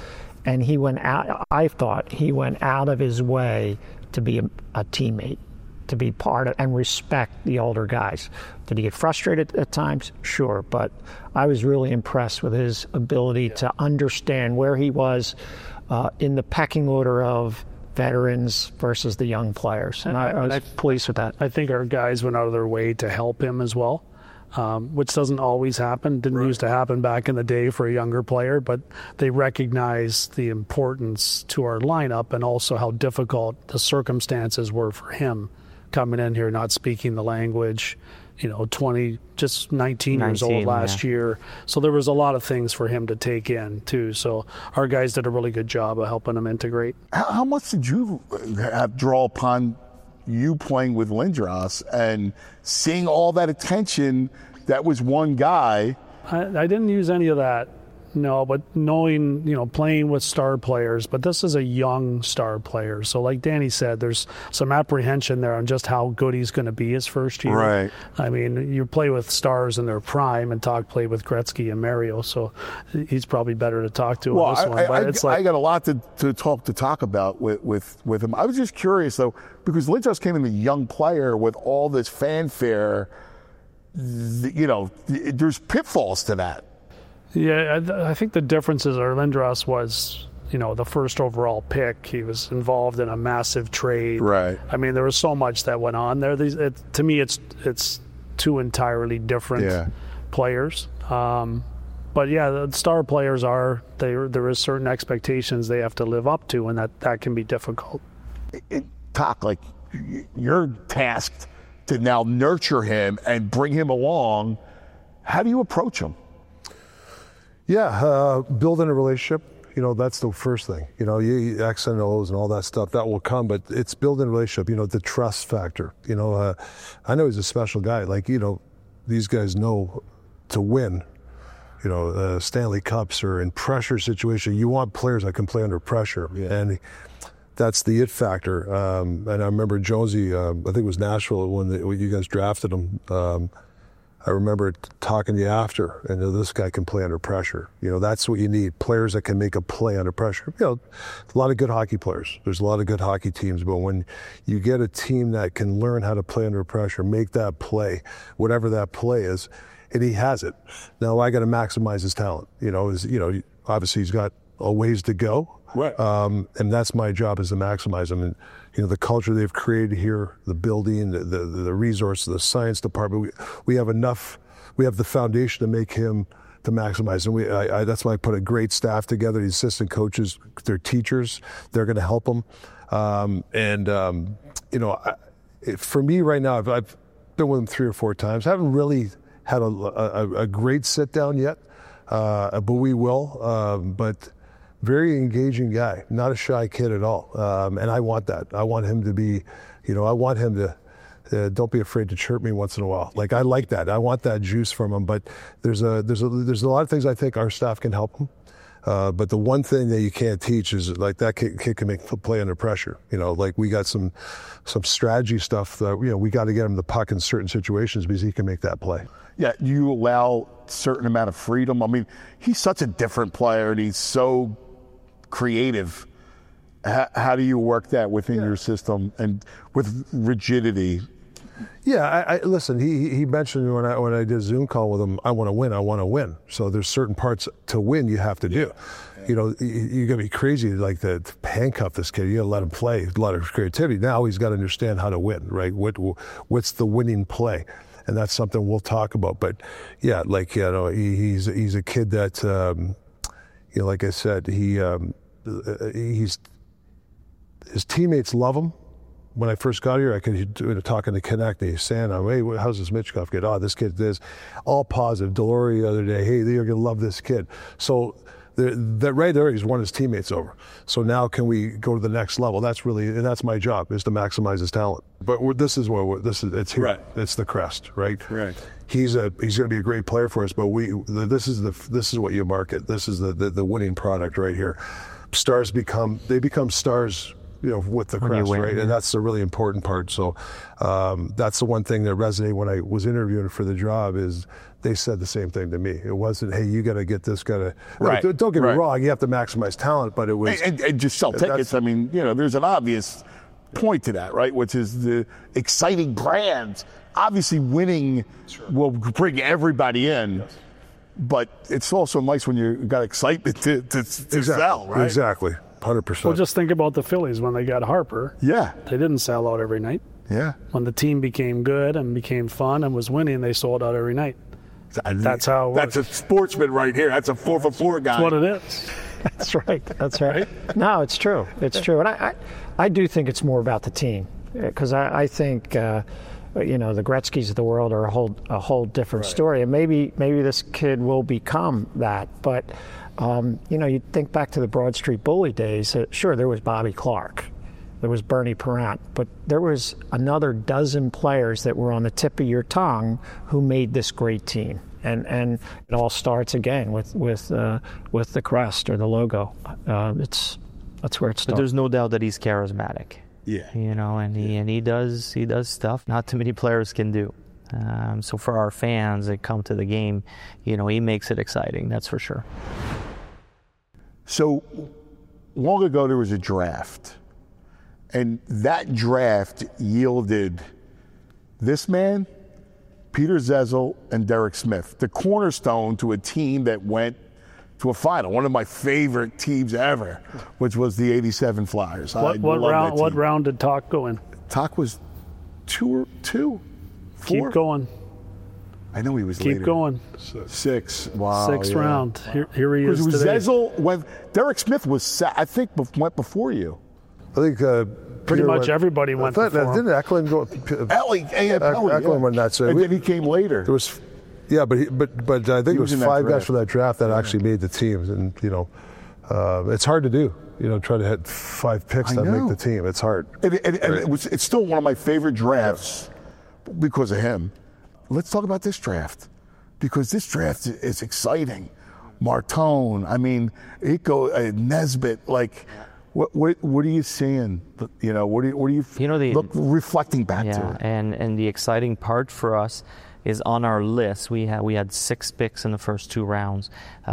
B: and he went out. I thought he went out of his way to be a, a teammate, to be part of and respect the older guys. Did he get frustrated at times? Sure, but I was really impressed with his ability yeah. to understand where he was uh, in the pecking order of veterans versus the young players, and I, I was I, pleased with that.
C: I think our guys went out of their way to help him as well, um, which doesn't always happen. Didn't right. used to happen back in the day for a younger player, but they recognize the importance to our lineup and also how difficult the circumstances were for him coming in here, not speaking the language. You know, twenty, just nineteen, nineteen years old last yeah. year. So there was a lot of things for him to take in, too. So our guys did a really good job of helping him integrate.
A: How, how much did you have draw upon you playing with Lindros and seeing all that attention that was one guy?
C: I, I didn't use any of that. No, but knowing, you know, playing with star players, but this is a young star player. So like Danny said, there's some apprehension there on just how good he's going to be his first year.
A: Right.
C: I mean, you play with stars in their prime, and Talk played with Gretzky and Mario, so he's probably better to talk to
A: well,
C: on this
A: I,
C: one.
A: I,
C: But
A: I,
C: it's like,
A: I got a lot to, to talk to talk about with, with, with him. I was just curious, though, because Lindros came in a young player with all this fanfare. You know, there's pitfalls to that.
C: Yeah, I think the differences are Lindros was, you know, the first overall pick. He was involved in a massive trade.
A: Right.
C: I mean, there was so much that went on there. These, it, to me, it's it's two entirely different yeah. players. Um, but yeah, the star players are, they, there is certain expectations they have to live up to, and that, that can be difficult.
A: It, talk like you're tasked to now nurture him and bring him along. How do you approach him?
E: Yeah, uh, building a relationship, you know, that's the first thing. You know, you, X and O's and all that stuff, that will come, but it's building a relationship, you know, the trust factor. You know, uh, I know he's a special guy. Like, you know, these guys know to win, you know, uh, Stanley Cups or in pressure situation. You want players that can play under pressure. Yeah. And that's the it factor. Um, and I remember Jonesy, uh, I think it was Nashville when, the, when you guys drafted him. Um, I remember talking to you after, and this guy can play under pressure. You know, that's what you need, players that can make a play under pressure. You know, a lot of good hockey players. There's a lot of good hockey teams, but when you get a team that can learn how to play under pressure, make that play, whatever that play is, and he has it. Now I got to maximize his talent. You know, is you know, obviously he's got a ways to go.
A: Right.
E: Um, and that's my job, is to maximize them. And, you know, the culture they've created here, the building, the, the, the resources, the science department, we, we have enough, we have the foundation to make him, to maximize. And we, I, I, that's why I put a great staff together, the assistant coaches, their teachers, they're going to help them. Um, and, um, you know, I, it, for me right now, I've, I've been with him three or four times. I haven't really had a, a, a great sit down yet, uh, but we will. Um, but very engaging guy, not a shy kid at all. Um, and I want that. I want him to be, you know, I want him to, uh, don't be afraid to chirp me once in a while. Like, I like that. I want that juice from him. But there's a, there's a, there's a lot of things I think our staff can help him. Uh, but the one thing that you can't teach is, like, that kid, kid can make play under pressure. You know, like, we got some, some strategy stuff that, you know, we got to get him the puck in certain situations because he can make that play.
A: Yeah, you allow certain amount of freedom. I mean, he's such a different player, and he's so creative. How, how do you work that within yeah. your system and with rigidity?
E: Yeah, I, I listen. He he mentioned when I when I did a Zoom call with him, I want to win. I want to win. So there's certain parts to win you have to do. Yeah. You know, you, you got to be crazy like to, to handcuff this kid. You got to let him play. A lot of creativity. Now he's got to understand how to win. Right? What what's the winning play? And that's something we'll talk about. But yeah, like, you know, he, he's he's a kid that. Um, You know, like I said, he um, he's his teammates love him. When I first got here, I could talking to Connect, and he's saying, "Hey, how's this Michkov kid? Oh, this kid this, all positive." Delory the other day, "Hey, you're gonna love this kid." So that right there, he's won his teammates over. So now, can we go to the next level? That's really, and that's my job, is to maximize his talent. But we're, this is where we're, this is it's here.
A: Right.
E: It's the crest, right?
A: Right.
E: He's a he's going to be a great player for us, but we this is the this is what you market. This is the, the the winning product right here. Stars become they become stars you know, with the
D: When you
E: crest,
D: win,
E: right?
D: yeah.
E: And that's the really important part. So um, that's the one thing that resonated when I was interviewing for the job is they said the same thing to me. It wasn't, hey, you got to get this, got to.
A: Right.
E: No, don't get me
A: Right.
E: wrong, you have to maximize talent, but it was.
A: And, and, and just sell tickets. I mean, you know, there's an obvious point to that, right? Which is the exciting brands. Obviously, winning will bring everybody in, but it's also nice when you got excitement to, to, to
E: exactly,
A: sell, right?
E: Exactly, one hundred percent.
C: Well, just think about the Phillies when they got Harper.
A: Yeah,
C: They didn't sell out every night.
A: yeah.
C: When the team became good and became fun and was winning, they sold out every night. That's how it
A: That's a sportsman right here. That's a four for four guy.
C: That's what it is.
B: That's right. That's right. No, it's true. It's true. And I, I, I do think it's more about the team because I, I think, uh, you know, the Gretzkys of the world are a whole a whole different
E: Right.
B: story. And maybe maybe this kid will become that. But, um, you know, you think back to the Broad Street Bully days. Uh, sure, there was Bobby Clark. There was Bernie Parent. But there was another dozen players that were on the tip of your tongue who made this great team. And and it all starts again with with uh, with the crest or the logo. Uh, it's that's where it
D: But
B: starts.
D: there's no doubt that he's charismatic.
A: Yeah.
D: You know, and he and he does he does stuff not too many players can do. Um, so for our fans that come to the game, you know, he makes it exciting. That's for sure.
A: So long ago, there was a draft, and that draft yielded this man, Peter Zezel, and Derek Smith, the cornerstone to a team that went to a final. One of my favorite teams ever, which was the eighty-seven Flyers. I
C: What, what
A: love
C: round?
A: that
C: What
A: team.
C: round did Talk go in?
A: Talk was two or two, four.
C: Keep going.
A: I know he was
C: Keep
A: later.
C: going.
A: Six. Wow.
C: Sixth
A: yeah.
C: round. Here, here he
A: Because
C: is
A: it was
C: today.
A: Zezel when Derek Smith was, sa- I think, bef- went before you.
E: I think uh,
C: Pretty
E: Peter
C: much
E: went-
C: everybody
E: I
C: went
E: thought
C: before
E: that
C: him.
E: didn't Eklund go. P-
A: Ellie, yeah, Pelly,
E: Eklund
A: yeah.
E: went that, so
A: and
E: we-
A: then he came later.
E: There was, yeah, but he, but but I think it
A: was
E: was
A: in that
E: five guys
A: draft.
E: from that draft that actually made the teams, and you know, uh, it's hard to do. You know, try to hit five picks
A: I
E: that
A: know.
E: make the team. It's hard.
A: And, and, and it was, it's still one of my favorite drafts because of him. Let's talk about this draft because this draft is exciting. Martone, I mean, it go uh, Nesbitt. Like, what what what are you seeing? You know, what do you what do you,
D: You know, the-
A: look reflecting back to
D: Yeah,
A: it?
D: and and the exciting part for us is on our list. We had we had six picks in the first two rounds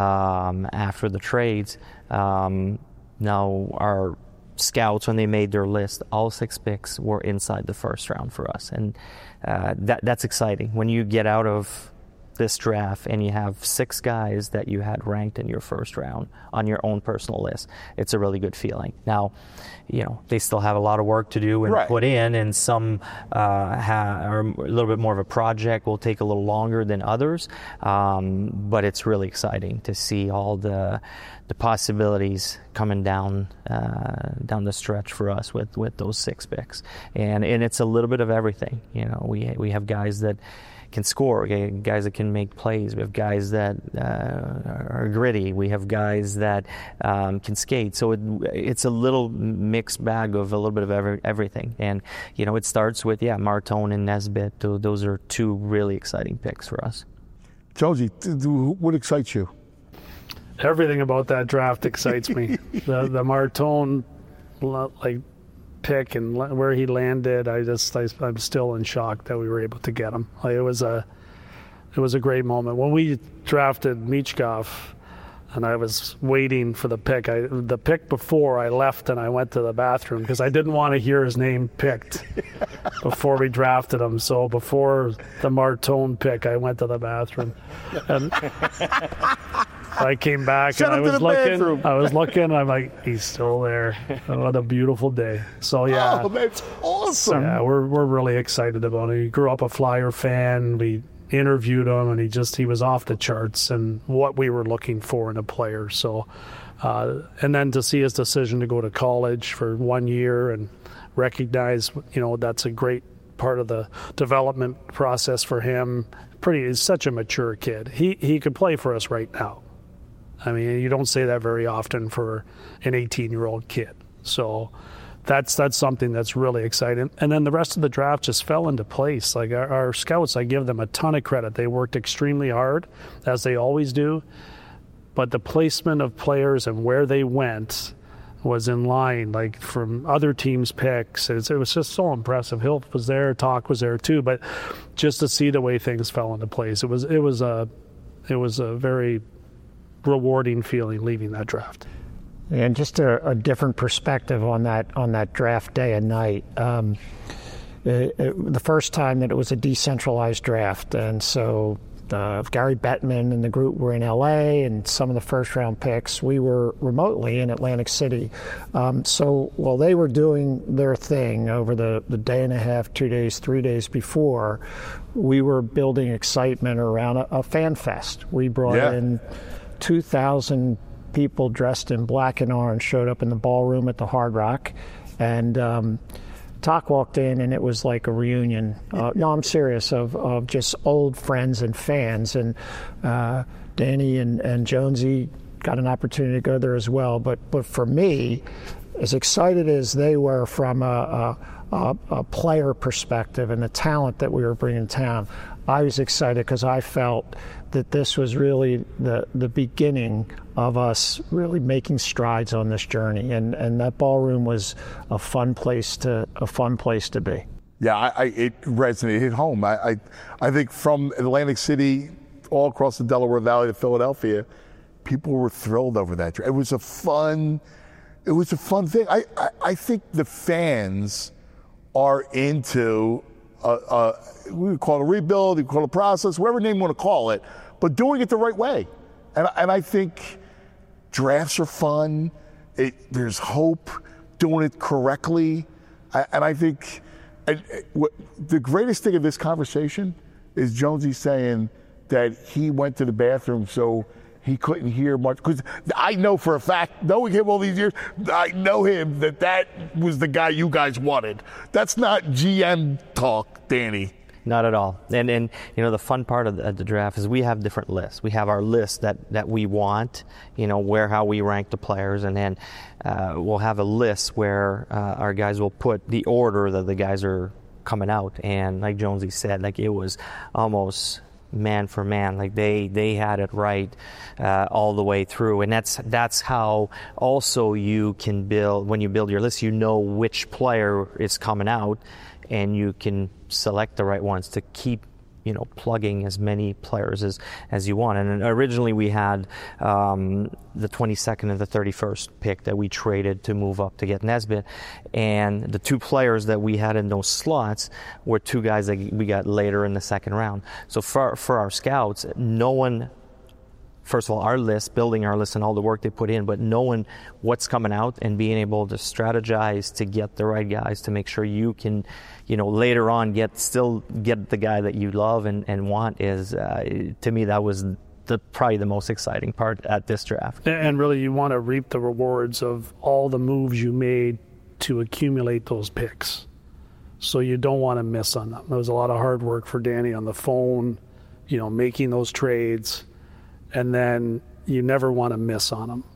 D: um, after the trades. Um, now our scouts, when they made their list, all six picks were inside the first round for us, and uh, that that's exciting when you get out of this draft and you have six guys that you had ranked in your first round on your own personal list. It's a really good feeling. Now, you know, they still have a lot of work to do and
A: Right.
D: put in, and some uh, ha- are a little bit more of a project, will take a little longer than others, um, but it's really exciting to see all the the possibilities coming down uh, down the stretch for us with, with those six picks. And and it's a little bit of everything. You know, we we have guys that can score, okay, guys that can make plays. We have guys that uh, are gritty. We have guys that um, can skate. So it, it's a little mixed bag of a little bit of every, everything. And, you know, it starts with, yeah, Martone and Nesbitt. Tho- Those are two really exciting picks for us.
A: Jonesy, th- th- what excites you?
C: Everything about that draft excites me. the the Martone, like pick and la- where he landed, I just I, I'm still in shock that we were able to get him. Like, it was a it was a great moment when we drafted Michkov, and I was waiting for the pick. I the pick before I left and I went to the bathroom because I didn't want to hear his name picked before we drafted him. So before the Martone pick, I went to the bathroom. And I came back
A: Send
C: and I
A: him to
C: was
A: the
C: looking.
A: bathroom.
C: I was looking. And I'm like, he's still there. Oh, what a beautiful day. So yeah,
A: Oh, that's awesome.
C: yeah, we're we're really excited about it. He grew up a Flyer fan. We interviewed him, and he just he was off the charts and what we were looking for in a player. So, uh, and then to see his decision to go to college for one year and recognize, you know, that's a great part of the development process for him. Pretty, he's such a mature kid. He he could play for us right now. I mean, you don't say that very often for an eighteen-year-old kid. So that's that's something that's really exciting. And then the rest of the draft just fell into place. Like our, our scouts, I give them a ton of credit. They worked extremely hard, as they always do. But the placement of players and where they went was in line, like from other teams' picks. It, it was just so impressive. Hilf was there, Talk was there too, but just to see the way things fell into place, it was it was a it was a very rewarding feeling leaving that draft.
B: And just a, a different perspective on that on that draft day and night. Um, it, it, the first time that it was a decentralized draft, and so uh, Gary Bettman and the group were in L A, and some of the first round picks we were remotely in Atlantic City. Um, so while they were doing their thing over the, the day and a half, two days, three days before, we were building excitement around a, a fan fest. We brought
A: yeah.
B: in two thousand people dressed in black and orange showed up in the ballroom at the Hard Rock, and um, Talk walked in, and it was like a reunion. Uh, no, I'm serious, of, of just old friends and fans. And uh, Danny and, and Jonesy got an opportunity to go there as well. But but for me, as excited as they were from a, a, a player perspective and the talent that we were bringing to town, I was excited because I felt that this was really the the beginning of us really making strides on this journey, and, and that ballroom was a fun place to a fun place to be.
A: Yeah, I, I, it resonated, hit home. I, I I think from Atlantic City all across the Delaware Valley to Philadelphia, people were thrilled over that. It was a fun, it was a fun thing. I I, I think the fans are into. Uh, uh, we would call it a rebuild, we call it a process, whatever name you want to call it, but doing it the right way. And, and I think drafts are fun. It, there's hope doing it correctly. I, and I think and, what, the greatest thing of this conversation is Jonesy saying that he went to the bathroom so he couldn't hear much. Because I know for a fact, knowing him all these years, I know him that that was the guy you guys wanted. That's not G M talk, Danny.
D: Not at all. And, and you know, the fun part of the, of the draft is we have different lists. We have our list that, that we want, you know, where how we rank the players. And then uh, we'll have a list where uh, our guys will put the order that the guys are coming out. And like Jonesy said, like it was almost man for man, like they they had it right uh, all the way through. And that's that's how also you can build, when you build your list, you know which player is coming out, and you can select the right ones to keep, you know, plugging as many players as, as you want. And originally we had um, the twenty-second and the thirty-first pick that we traded to move up to get Nesbitt. And the two players that we had in those slots were two guys that we got later in the second round. So for, for our scouts, no one, first of all, our list, building our list and all the work they put in, but knowing what's coming out and being able to strategize to get the right guys to make sure you can, you know, later on get still get the guy that you love and, and want is, uh, to me, that was the probably the most exciting part at this draft.
C: And really, you want to reap the rewards of all the moves you made to accumulate those picks. So you don't want to miss on them. There was a lot of hard work for Danny on the phone, you know, making those trades. And then you never want to miss on them.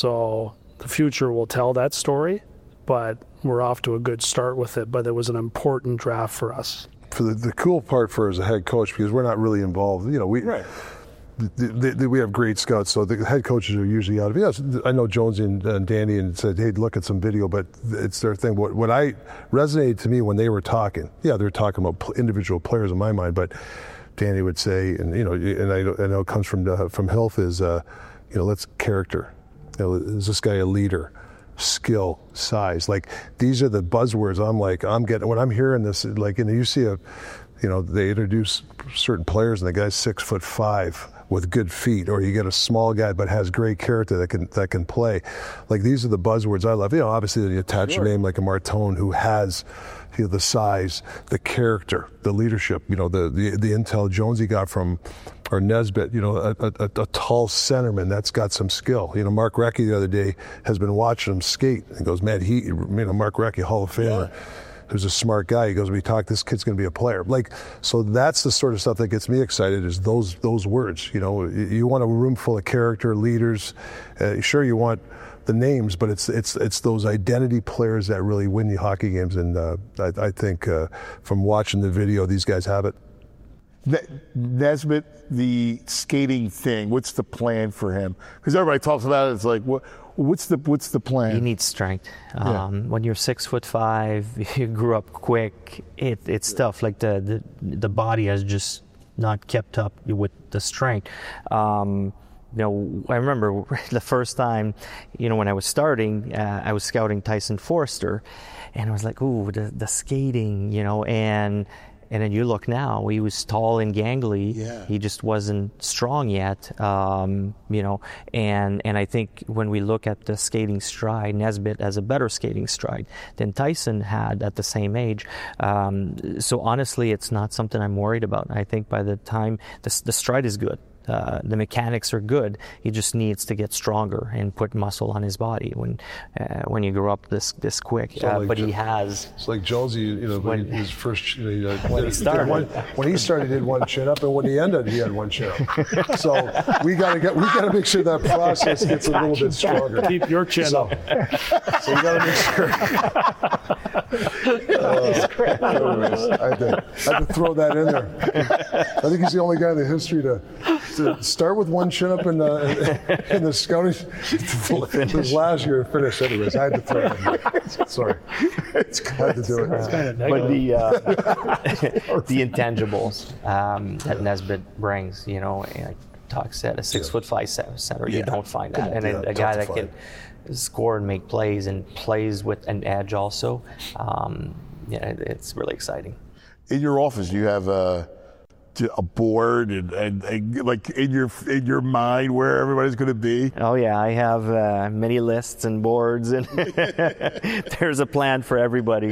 C: So the future will tell that story, but we're off to a good start with it. But it was an important draft for us.
E: For the, the cool part for as a head coach, because we're not really involved, you know, we
A: Right.
E: the, the, the, we have great scouts, so the head coaches are usually out of it. Yes, I know Jonesy and, and Danny and said, hey, look at some video, but it's their thing. What, what I resonated to me when they were talking, yeah, they're talking about individual players in my mind, but Danny would say, and you know, and I, I know it comes from uh, from Hilf is, uh, you know, let's character. You know, is this guy a leader? Skill, size. Like these are the buzzwords. I'm like, I'm getting when I'm hearing this. Like, you know, you see a, you know, they introduce certain players, and the guy's six foot five with good feet, or you get a small guy but has great character that can that can play. Like these are the buzzwords I love. You know, obviously you attach
A: Sure.
E: a name like a Martone who has, you know, the size, the character, the leadership. You know, the the, the intel Jonesy got from, or Nesbitt. You know, a, a, a tall centerman that's got some skill. You know, Mark Recchi the other day has been watching him skate and goes, man, he, you know, Mark Recchi, Hall of Famer. Yeah. Who's a smart guy. He goes, we talk, this kid's going to be a player. Like, so that's the sort of stuff that gets me excited is those those words. You know, you want a room full of character, leaders. Uh, sure, you want the names, but it's it's it's those identity players that really win you hockey games. And uh, I, I think uh, from watching the video, these guys have it.
A: Nesbitt, the skating thing, what's the plan for him? Because everybody talks about it. It's like, what, what's the what's the plan?
D: He needs strength.
A: Yeah.
D: Um, when you're six foot five, you grew up quick. It, it's tough. Like the, the the body has just not kept up with the strength. Um, you know, I remember the first time, you know, when I was starting, uh, I was scouting Tyson Forster, and I was like, ooh, the, the skating, you know, and. And then you look now, he was tall and gangly.
A: Yeah.
D: He just wasn't strong yet, um, you know. And and I think when we look at the skating stride, Nesbitt has a better skating stride than Tyson had at the same age. Um, so honestly, it's not something I'm worried about. I think by the time the, the stride is good. Uh, the mechanics are good. He just needs to get stronger and put muscle on his body when uh, when you grow up this this quick. Uh,
E: like
D: but
E: Jo-
D: he has.
E: It's like Jonesy, you know, when
D: When-
E: his first, you know, he, uh,
D: When he
E: did
D: started.
E: one, when he started, he did one chin up, and when he ended, he had one chin up. So we got to get, we got to make sure that process gets a little bit stronger.
C: Keep your chin
E: So,
C: up.
E: so we got to make sure. Uh, anyways, I, had to, I had to throw that in there. I think he's the only guy in the history to, to start with one chin up in the, in the scouting. His last year finish, anyways. I had to throw that in there. Sorry. I had to do it.
D: But the uh, the intangibles um, that Nesbitt brings, you know, like Talk said, a six foot five center, you
E: Yeah.
D: don't find that, and
E: Yeah,
D: a, a guy
E: tough
D: that
E: to
D: can score and make plays and plays with an edge also. Um, yeah, it, it's really exciting.
A: In your office, do you have a a board and, and, and like in your in your mind where everybody's going to be?
D: Oh yeah, I have uh, many lists and boards, and there's a plan for everybody.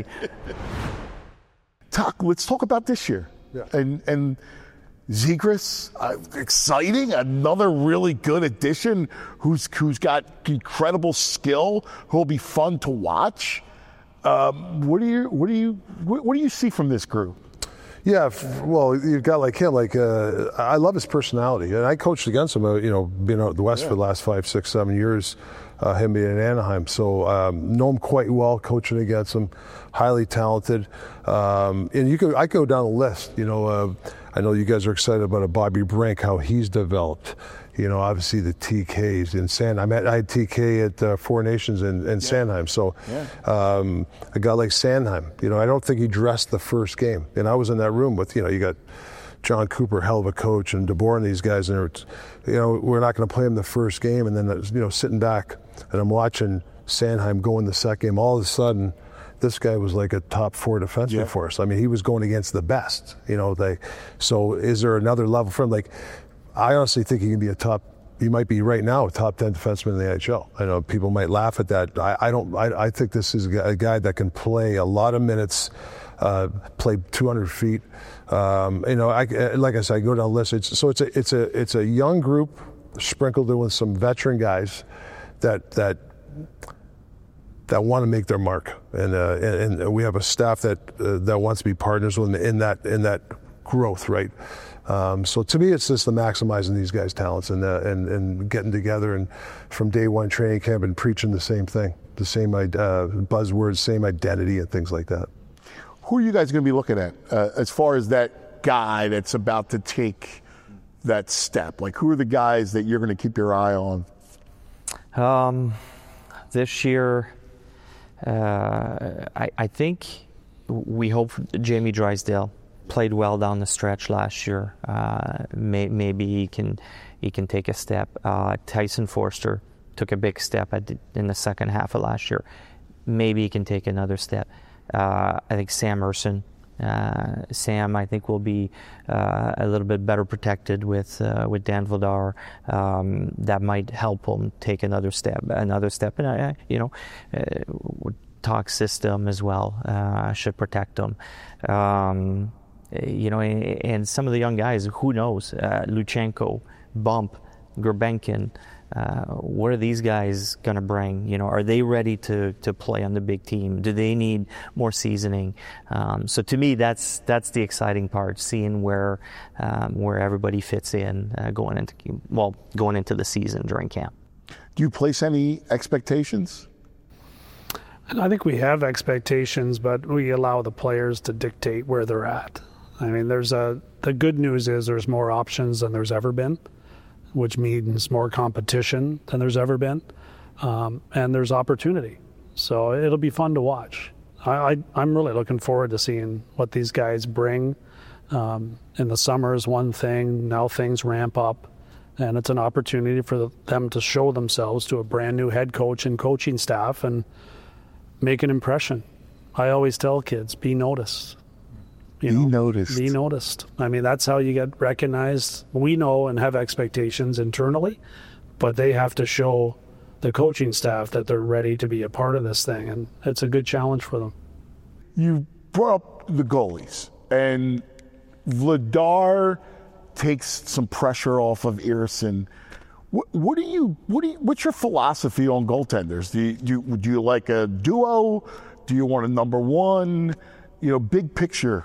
A: Talk. Let's talk about this year.
E: Yeah.
A: And and Zegras, uh, exciting, another really good addition who's who's got incredible skill, who'll be fun to watch. Um, what do you what do you what, what do you see from this group?
E: Yeah, f- well, you've got like him. Like uh, I love his personality, and I coached against him. Uh, you know, being out the West
A: Yeah.
E: for the last five, six, seven years, uh, him being in Anaheim. So um, know him quite well, coaching against him. Highly talented, um, and you could I go down the list. You know, uh, I know you guys are excited about a Bobby Brink, how he's developed. You know, obviously the T Ks in San. I met I had T K at uh, Four Nations in, in Sandheim. So
A: Yeah.
E: um, a guy like Sandheim, you know, I don't think he dressed the first game. And I was in that room with, you know, you got John Cooper, hell of a coach, and DeBoer and these guys, and it's, you know, we're not going to play him the first game. And then, you know, sitting back and I'm watching Sandheim go in the second game. All of a sudden, this guy was like a top four defenseman
A: Yeah.
E: for us. I mean, he was going against the best. You know, they. So is there another level for him? Like, I honestly think he can be a top. He might be right now a top ten defenseman in the N H L. I know people might laugh at that. I, I don't. I, I think this is a guy, a guy that can play a lot of minutes, uh, play two hundred feet. Um, you know, I, like I said, I go down the list. It's, so it's a it's a it's a young group sprinkled in with some veteran guys that that that want to make their mark, and uh, and, and we have a staff that uh, that wants to be partners with them in that in that growth, right? Um, so to me, it's just the maximizing these guys' talents and, uh, and and getting together and from day one training camp and preaching the same thing, the same uh, buzzwords, same identity, and things like that.
A: Who are you guys going to be looking at uh, as far as that guy that's about to take that step? Like, who are the guys that you're going to keep your eye on?
D: Um, this year, uh, I, I think we hope Jamie Drysdale played well down the stretch last year. Uh, may, maybe he can he can take a step. Uh, Tyson Forster took a big step at the, in the second half of last year. Maybe he can take another step. Uh, I think Sam Erson. Uh, Sam, I think, will be uh, a little bit better protected with uh, with Dan Vladar. Um, that might help him take another step, another step. And I, I you know, uh, talk system as well uh, should protect him. Um, you know, and, and some of the young guys, who knows? Uh, Luchenko, Bump, Gerbenkin. Uh, what are these guys going to bring? You know, are they ready to, to play on the big team? Do they need more seasoning? Um, so to me, that's that's the exciting part, seeing where um, where everybody fits in uh, going into well going into the season during camp.
A: Do you place any expectations?
C: I think we have expectations, but we allow the players to dictate where they're at. I mean, there's a the good news is there's more options than there's ever been, which means more competition than there's ever been, um, and there's opportunity. So it'll be fun to watch. I, I, I'm really looking forward to seeing what these guys bring. Um, in the summer is one thing, now things ramp up, and it's an opportunity for them to show themselves to a brand new head coach and coaching staff and make an impression. I always tell kids, be noticed. You
A: be
C: know,
A: noticed.
C: Be noticed. I mean, that's how you get recognized. We know and have expectations internally, but they have to show the coaching staff that they're ready to be a part of this thing, and it's a good challenge for them.
A: You brought up the goalies, and Vladar takes some pressure off of Ersson. What, what do you? What do you? What's your philosophy on goaltenders? Do you, do you, do you like a duo? Do you want a number one? You know, big picture.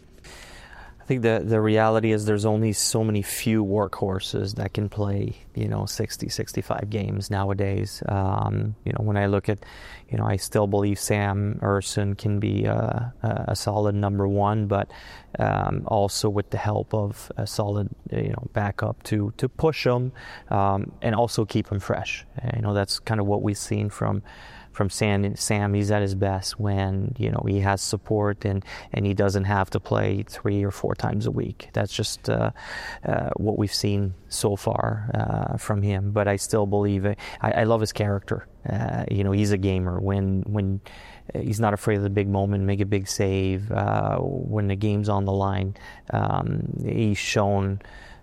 D: I think the the reality is there's only so many few workhorses that can play, you know, sixty, sixty-five games nowadays. Um, you know, when I look at, you know, I still believe Sam Ersson can be a, a solid number one, but um, also with the help of a solid, you know, backup to to push him um, and also keep him fresh. You know, that's kind of what we've seen from. From Sam, Sam, he's at his best when, you know, he has support and, and he doesn't have to play three or four times a week. That's just uh, uh, what we've seen so far uh, from him. But I still believe, I, I love his character. Uh, you know, he's a gamer. When when he's not afraid of the big moment, make a big save. Uh, when the game's on the line, um, he's shown.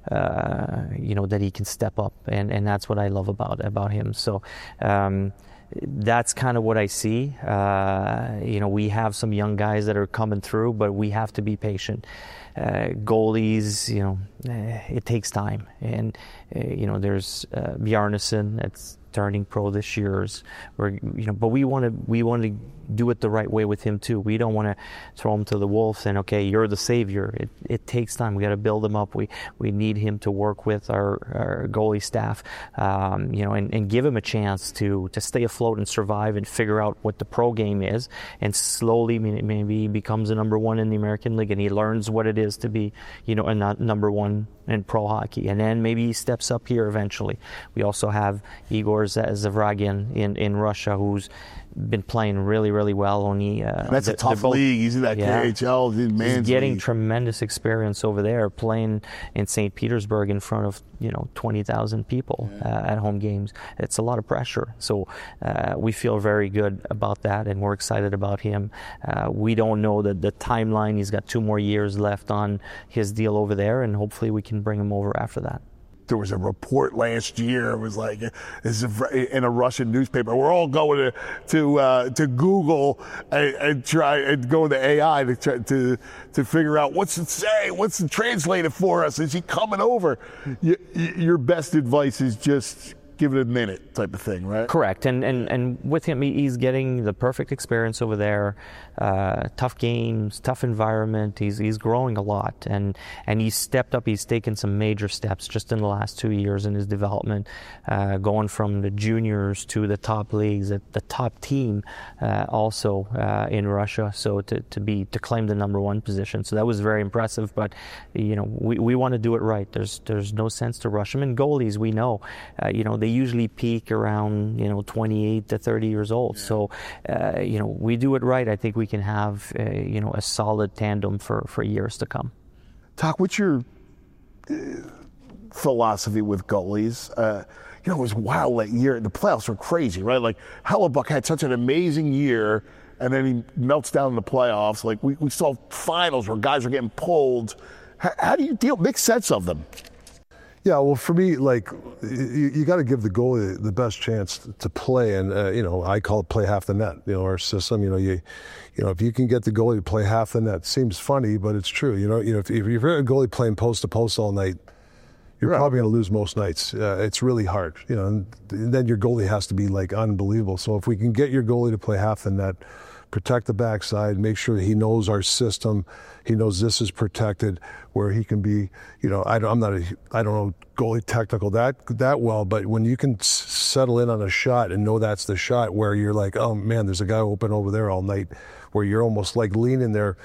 D: Uh, you know, that he can step up, and, and that's what I love about about him. So. Um, That's kind of what I see. Uh, you know, we have some young guys that are coming through, but we have to be patient. Uh, goalies, you know, uh, it takes time. And, uh, you know, there's uh, Bjarnason that's turning pro this year. Or, you know, but we want to we want to do it the right way with him too. We don't want to throw him to the wolves and, okay, you're the savior. It it takes time. We got to build him up. We we need him to work with our, our goalie staff, um, you know, and, and give him a chance to to stay afloat and survive and figure out what the pro game is. And slowly, maybe he becomes a number one in the American League and he learns what it is to be, you know, a number one in pro hockey. And then maybe he steps up here eventually. We also have Igor Zavragin in, in Russia, who's been playing really, really well. Only uh,
A: that's a tough both, league. He's in that yeah, K H L. He's
D: getting
A: league.
D: Tremendous experience over there, playing in Saint Petersburg in front of you know twenty thousand people yeah. uh, at home games. It's a lot of pressure. So uh, we feel very good about that, and we're excited about him. Uh, we don't know the the timeline. He's got two more years left on his deal over there, and hopefully we can bring him over after that.
A: There was a report last year. It was like this is in a Russian newspaper. We're all going to to uh, to Google and, and try and go to A I to try, to to figure out what's it say, what's it translate it for us. Is he coming over? You, your best advice is just give it a minute, type of thing, right?
D: Correct. And and and with him, he's getting the perfect experience over there. Uh, tough games, tough environment. He's he's growing a lot, and and he's stepped up. He's taken some major steps just in the last two years in his development, uh, going from the juniors to the top leagues, at the top team, uh, also uh, in Russia. So to to be to claim the number one position. So that was very impressive. But you know, we we want to do it right. There's there's no sense to rush him. And goalies, we know, uh, you know, they usually peak around you know twenty-eight to thirty years old. So uh, you know, we do it right. I think we. We can have a, you know a solid tandem for, for years to come.
A: Talk, what's your uh, philosophy with goalies? Uh, you know, it was wild that year. The playoffs were crazy, right? Like Hellebuck had such an amazing year, and then he melts down in the playoffs. Like we, we saw finals where guys were getting pulled. How, how do you deal? Make sense of them.
E: Yeah, well, for me, like, you, you got to give the goalie the best chance to play, and uh, you know, I call it play half the net. You know, our system. You know, you, you know, if you can get the goalie to play half the net, seems funny, but it's true. You know, you know, if, if you're a goalie playing post to post all night, you're right. probably going to lose most nights. Uh, it's really hard. You know, and, and then your goalie has to be like unbelievable. So if we can get your goalie to play half the net, protect the backside, make sure he knows our system, he knows this is protected, where he can be, you know, I don't, I'm not a, I don't know goalie technical that that well, but when you can s- settle in on a shot and know that's the shot where you're like, oh man, there's a guy open over there all night, where you're almost like leaning there,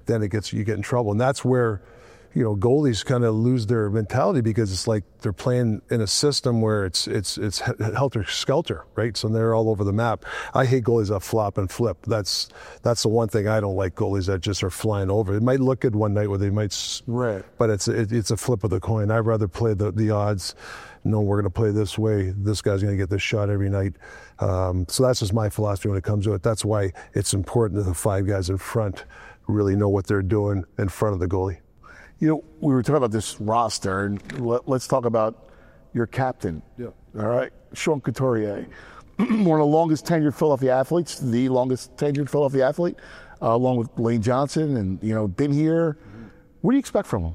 E: then it gets you get in trouble. And that's where, you know, goalies kind of lose their mentality because it's like they're playing in a system where it's it's it's helter skelter, right? So they're all over the map. I hate goalies that flop and flip. That's that's the one thing I don't like. Goalies that just are flying over. It might look good one night where they might,
A: right?
E: But it's it, it's a flip of the coin. I'd rather play the the odds. No, we're going to play this way. This guy's going to get this shot every night. Um, so that's just my philosophy when it comes to it. That's why it's important that the five guys in front really know what they're doing in front of the goalie.
A: You know, we were talking about this roster, and let, let's talk about your captain.
E: Yeah.
A: All right, Sean Couturier, one of the longest tenured Philadelphia athletes, the longest tenured Philadelphia athlete, uh, along with Lane Johnson, and you know, been here. Mm-hmm. What do you expect from him?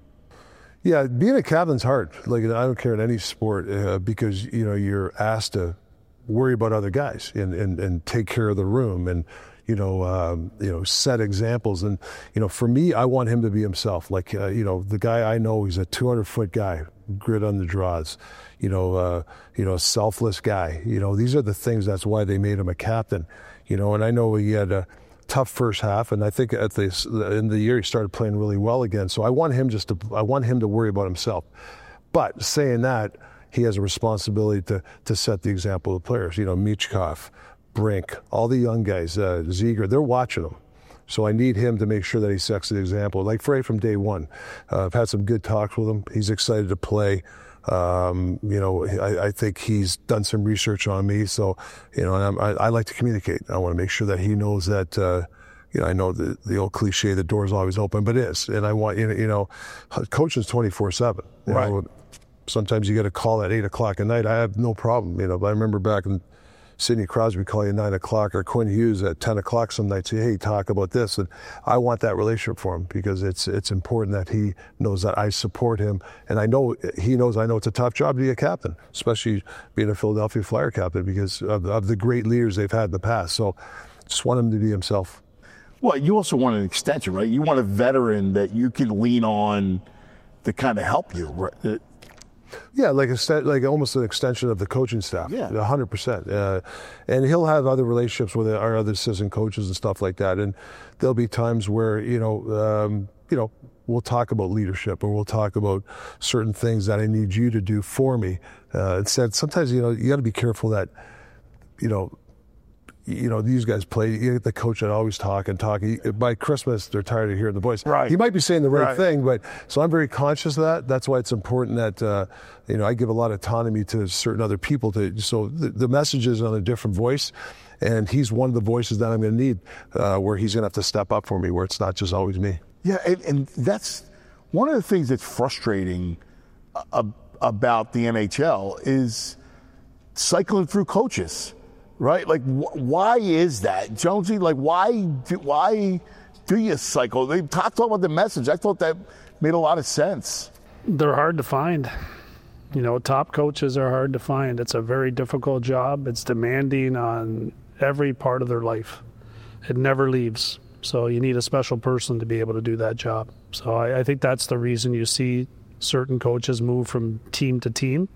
E: Yeah, being a captain's hard. Like, I don't care in any sport uh, because, you know, you're asked to worry about other guys and, and, and take care of the room and, you know, um, you know, set examples. And, you know, for me, I want him to be himself. Like, uh, you know, the guy I know, he's a two hundred foot guy, grit on the draws, you know, uh, you know, selfless guy. You know, these are the things, that's why they made him a captain, you know, and I know he had a tough first half, and I think at the in the year he started playing really well again. So I want him just to I want him to worry about himself. But saying that, he has a responsibility to to set the example of the players. You know, Michkov, Brink, all the young guys, uh, Ziegler, they're watching him. So I need him to make sure that he sets the example. Like Frey from day one, uh, I've had some good talks with him. He's excited to play. Um, you know, I, I think he's done some research on me. So, you know, and I'm, I, I like to communicate. I want to make sure that he knows that, uh, you know, I know the, the old cliche, the door's always open, but it is. And I want, you know, you know coaching's twenty-four seven.
A: Right.
E: Know, sometimes you get a call at eight o'clock at night. I have no problem, you know, but I remember back in Sidney Crosby call you at nine o'clock, or Quinn Hughes at ten o'clock some nights, say, hey, talk about this. And I want that relationship for him because it's it's important that he knows that I support him. And I know he knows I know it's a tough job to be a captain, especially being a Philadelphia Flyer captain because of, of the great leaders they've had in the past. So just want him to be himself.
A: Well, you also want an extension, right? You want a veteran that you can lean on to kind of help you, right?
E: Yeah, like a, like almost an extension of the coaching staff.
A: Yeah,
E: one hundred percent. Uh, and he'll have other relationships with our other assistant coaches and stuff like that. And there'll be times where you know, um, you know, we'll talk about leadership or we'll talk about certain things that I need you to do for me. Uh, instead, sometimes you know you got to be careful that you know. You know, these guys play, you get the coach that always talk and talk. He, by Christmas, they're tired of hearing the voice.
A: Right.
E: He might be saying the right,
A: right.
E: thing, but so I'm very conscious of that. That's why it's important that, uh, you know, I give a lot of autonomy to certain other people. To So the, the message is on a different voice, and he's one of the voices that I'm going to need uh, where he's going to have to step up for me, where it's not just always me.
A: Yeah, and, and that's one of the things that's frustrating uh, about the N H L is cycling through coaches. Right? Like, wh- why is that, Jonesy? Like, why do, why do you cycle? They talk, talk about the message. I thought that made a lot of sense.
C: They're hard to find. You know, top coaches are hard to find. It's a very difficult job. It's demanding on every part of their life. It never leaves. So you need a special person to be able to do that job. So I, I think that's the reason you see certain coaches move from team to team.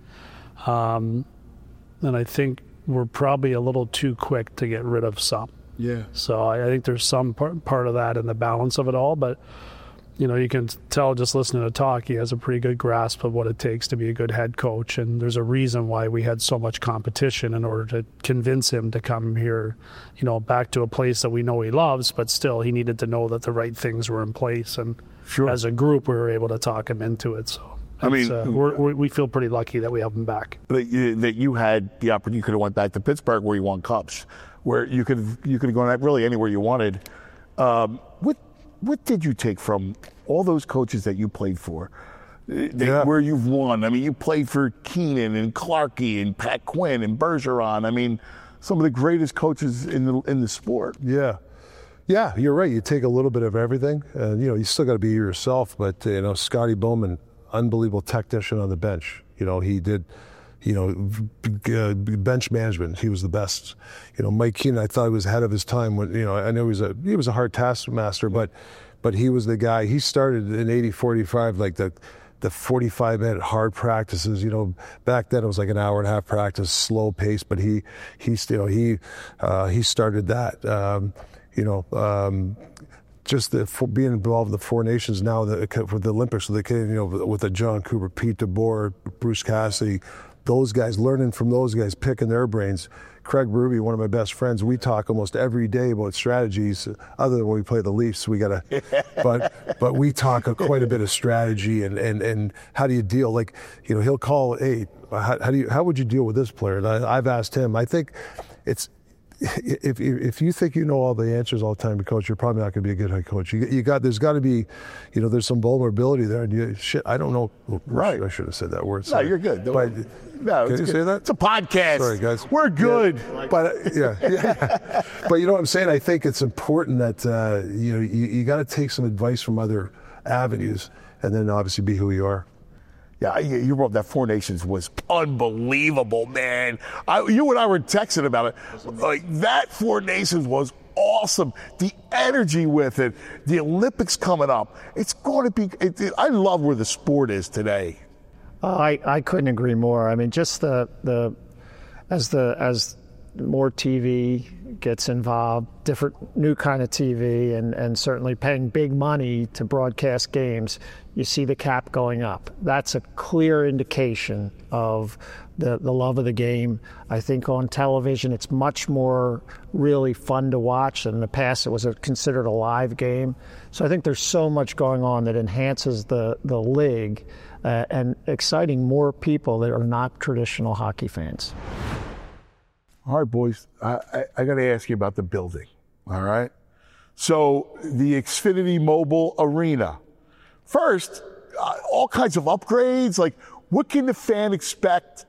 C: Um, and I think we're probably a little too quick to get rid of some.
A: Yeah.
C: So I, I think there's some part, part of that in the balance of it all. But, you know, you can tell just listening to talk, he has a pretty good grasp of what it takes to be a good head coach. And there's a reason why we had so much competition in order to convince him to come here, you know, back to a place that we know he loves. But still, he needed to know that the right things were in place. And
A: sure.
C: As a group, we were able to talk him into it. So.
A: I mean,
C: uh, we're, we're, we feel pretty lucky that we have him back.
A: That you, that you had the opportunity, you could have went back to Pittsburgh where you won cups, where you could have, you could have gone really anywhere you wanted. Um, what what did you take from all those coaches that you played for, they,
E: yeah.
A: where you've won? I mean, you played for Keenan and Clarkey and Pat Quinn and Bergeron. I mean, some of the greatest coaches in the in the sport.
E: Yeah. Yeah, you're right. You take a little bit of everything. And, you know, you still got to be yourself. But, uh, you know, Scotty Bowman, unbelievable technician on the bench. You know, he did, you know, uh, bench management. He was the best. You know, Mike Keenan, I thought he was ahead of his time. When you know, I know he was a he was a hard taskmaster, but but he was the guy. He started in eighty forty-five, like the the forty-five minute hard practices. You know, back then it was like an hour and a half practice, slow pace. But he he you know he uh, he started that. Um, you know. Um, just the, for being involved in the Four Nations now the, for the Olympics, so they can, you know, with the John Cooper, Pete DeBoer, Bruce Cassidy, those guys, learning from those guys, picking their brains. Craig Berube, one of my best friends, we talk almost every day about strategies. Other than when we play the Leafs, we gotta, but but we talk a, quite a bit of strategy and, and, and how do you deal? Like, you know, he'll call, hey, how, how do you how would you deal with this player? And I, I've asked him. I think it's. If if you think you know all the answers all the time to coach, you're probably not going to be a good head coach. You, you got there's got to be, you know, there's some vulnerability there, and you shit. I don't know.
A: Right.
E: I should have said that word.
A: Sorry. No, you're good. Don't
E: but,
A: no,
E: can you
A: good.
E: say that?
A: It's a podcast.
E: Sorry, guys.
A: We're good.
E: Yeah, but uh, yeah, yeah. But you know what I'm saying? I think it's important that uh, you know you, you got to take some advice from other avenues, and then obviously be who you are.
A: Yeah, you wrote that Four Nations was unbelievable, man. I, you and I were texting about it. Like, that Four Nations was awesome. The energy with it, the Olympics coming up. It's going to be. It, it, I love where the sport is today.
B: Uh, I I couldn't agree more. I mean, just the the as the as more T V gets involved, different new kind of T V, and, and certainly paying big money to broadcast games, you see the cap going up. That's a clear indication of the, the love of the game. I think on television it's much more really fun to watch. In the past it was a, considered a live game. So I think there's so much going on that enhances the, the league uh, and exciting more people that are not traditional hockey fans.
A: All right, boys, I, I, I got to ask you about the building, all right? So the Xfinity Mobile Arena. First, uh, all kinds of upgrades. Like, what can the fan expect?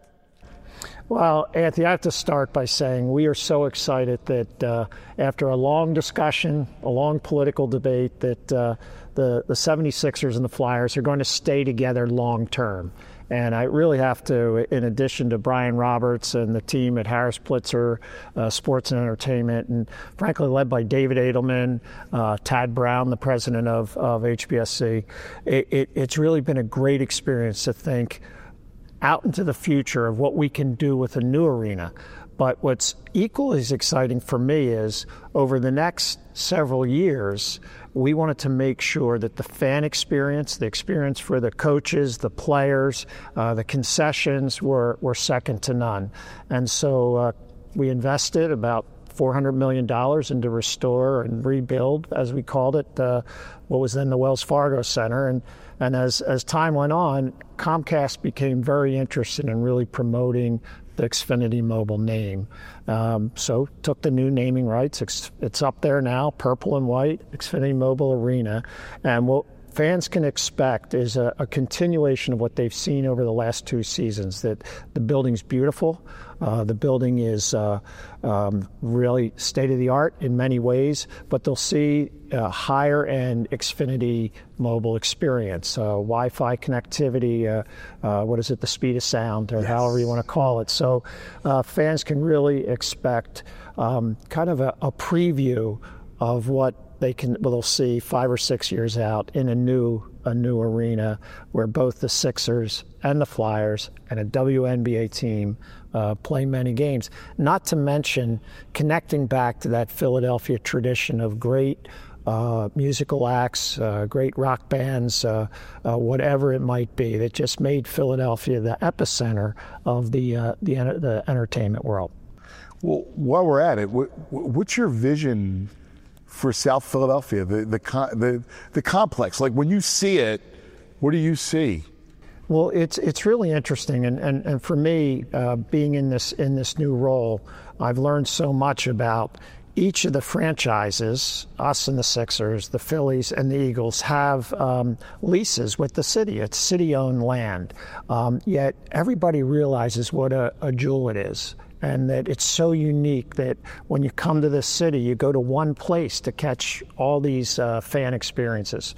B: Well, Anthony, I have to start by saying we are so excited that uh, after a long discussion, a long political debate, that uh, the, the seventy-sixers and the Flyers are going to stay together long term. And I really have to, in addition to Brian Roberts and the team at Harris Blitzer uh, Sports and Entertainment, and frankly led by David Edelman, uh, Tad Brown, the president of, of H B S C, it, it, it's really been a great experience to think out into the future of what we can do with a new arena. But what's equally as exciting for me is over the next several years, we wanted to make sure that the fan experience, the experience for the coaches, the players, uh, the concessions were, were second to none. And so uh, we invested about four hundred million dollars into restore and rebuild, as we called it, uh, what was then the Wells Fargo Center. And, and as, as time went on, Comcast became very interested in really promoting the Xfinity Mobile name. Um, so took the new naming rights. It's, it's up there now, purple and white, Xfinity Mobile Arena. And what fans can expect is a, a continuation of what they've seen over the last two seasons, that the building's beautiful. Uh, the building is uh, um, really state-of-the-art in many ways, but they'll see a higher-end Xfinity mobile experience, uh, Wi-Fi connectivity, uh, uh, what is it, the speed of sound, or yes, however you want to call it. So uh, fans can really expect um, kind of a, a preview of what they can, well, they'll see five or six years out in a new a new arena where both the Sixers and the Flyers and a W N B A team uh, play many games. Not to mention connecting back to that Philadelphia tradition of great uh, musical acts, uh, great rock bands, uh, uh, whatever it might be, that just made Philadelphia the epicenter of the uh, the, the entertainment world.
A: Well, while we're at it, what, what's your vision for South Philadelphia, the, the the the complex? Like, when you see it, what do you see?
B: Well, it's it's really interesting, and and, and for me, uh, being in this in this new role, I've learned so much about each of the franchises. Us and the Sixers, the Phillies and the Eagles have um, leases with the city. It's city-owned land, um, yet everybody realizes what a, a jewel it is. And that it's so unique that when you come to this city, you go to one place to catch all these uh, fan experiences.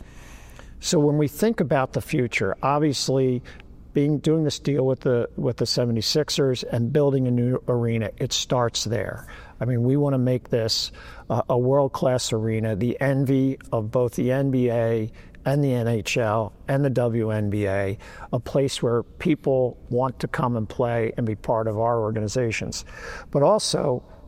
B: So when we think about the future, obviously being doing this deal with the with the seventy-sixers and building a new arena, it starts there. I mean, we want to make this uh, a world-class arena, the envy of both the N B A and the N H L and the W N B A, a place where people want to come and play and be part of our organizations. But also,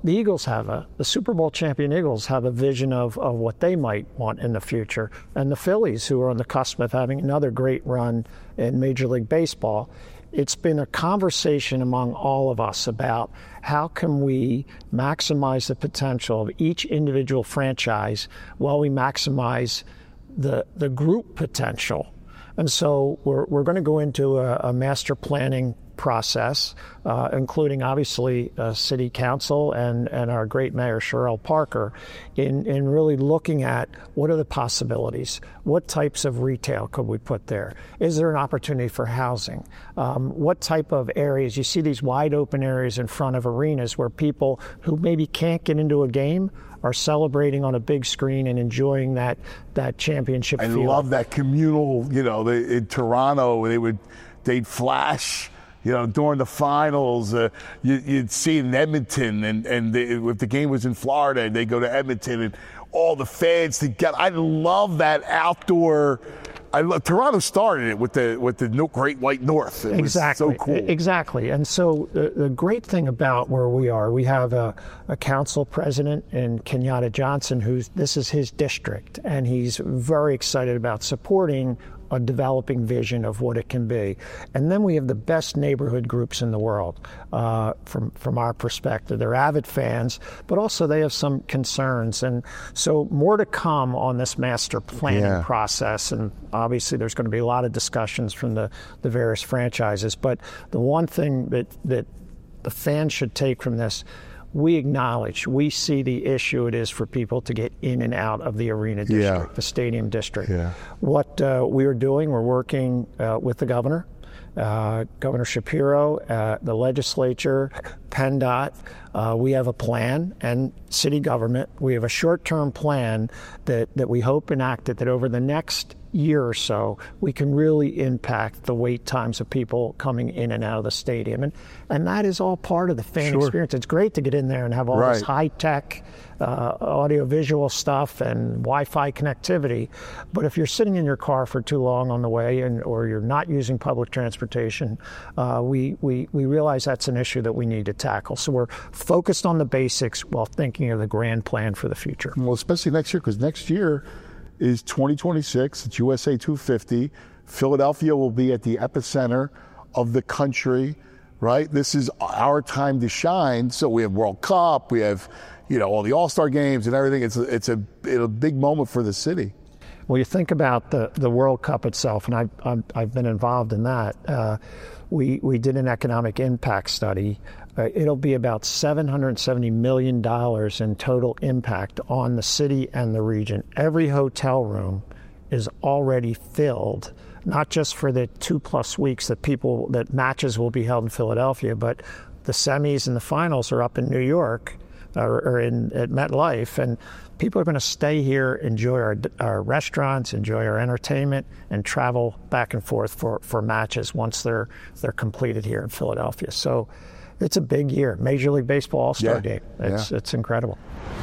B: the Eagles have a, the Super Bowl champion Eagles have a vision of, of what they might want in the future. And the Phillies, who are on the cusp of having another great run in Major League Baseball, it's been a conversation among all of us about how can we maximize the potential of each individual franchise while we maximize the the group potential. And so we're we're going to go into a, a master planning process, uh, including obviously uh, City Council and, and our great Mayor Sherelle Parker, in, in really looking at what are the possibilities, what types of retail could we put there, is there an opportunity for housing, um, what type of areas, you see these wide open areas in front of arenas where people who maybe can't get into a game are celebrating on a big screen and enjoying that that championship
A: I
B: feel.
A: love that communal, you know, they, in Toronto, they would, they'd flash, you know, during the finals. Uh, you, you'd see it in Edmonton, and, and they, if the game was in Florida, they'd go to Edmonton, and all the fans together. I love that outdoor. I love, Toronto started it with the with the Great White North. It
B: exactly.
A: was so cool.
B: Exactly. And so the, the great thing about where we are, we have a, a council president in Kenyatta Johnson, who's this is his district, and he's very excited about supporting a developing vision of what it can be. And then we have the best neighborhood groups in the world uh, from from our perspective. They're avid fans, but also they have some concerns. And so more to come on this master planning
A: yeah.
B: process. And obviously there's going to be a lot of discussions from the, the various franchises. But the one thing that, that the fans should take from this, we acknowledge, we see the issue it is for people to get in and out of the arena district,
A: yeah.
B: the stadium district.
A: Yeah.
B: What uh, we are doing, we're working uh, with the governor, uh, Governor Shapiro, uh, the legislature, PennDOT. Uh, we have a plan, and city government. We have a short-term plan that, that we hope enacted that over the next year or so, we can really impact the wait times of people coming in and out of the stadium. And and that is all part of the fan
A: Sure.
B: experience. It's great to get in there and have all
A: Right.
B: this high-tech uh, audio-visual stuff and Wi-Fi connectivity. But if you're sitting in your car for too long on the way, and or you're not using public transportation, uh, we, we, we realize that's an issue that we need to tackle. So we're focused on the basics while thinking of the grand plan for the future.
A: Well, especially next year, because next year is twenty twenty-six. It's U S A two fifty. Philadelphia will be at the epicenter of the country, right? This is our time to shine. So we have World Cup, we have, you know, all the All-Star games and everything. It's a, it's a, a big moment for the city.
B: Well, you think about the, the World Cup itself, and I've, I've, I've been involved in that. Uh, we, we did an economic impact study. Uh, it'll be about seven hundred seventy million dollars in total impact on the city and the region. Every hotel room is already filled, not just for the two plus weeks that people, that matches will be held in Philadelphia, but the semis and the finals are up in New York or, or in at MetLife, and people are going to stay here, enjoy our, our restaurants, enjoy our entertainment, and travel back and forth for, for matches once they're they're completed here in Philadelphia. So it's a big year. Major League Baseball All-Star
A: Yeah.
B: Game. It's
A: Yeah.
B: it's incredible.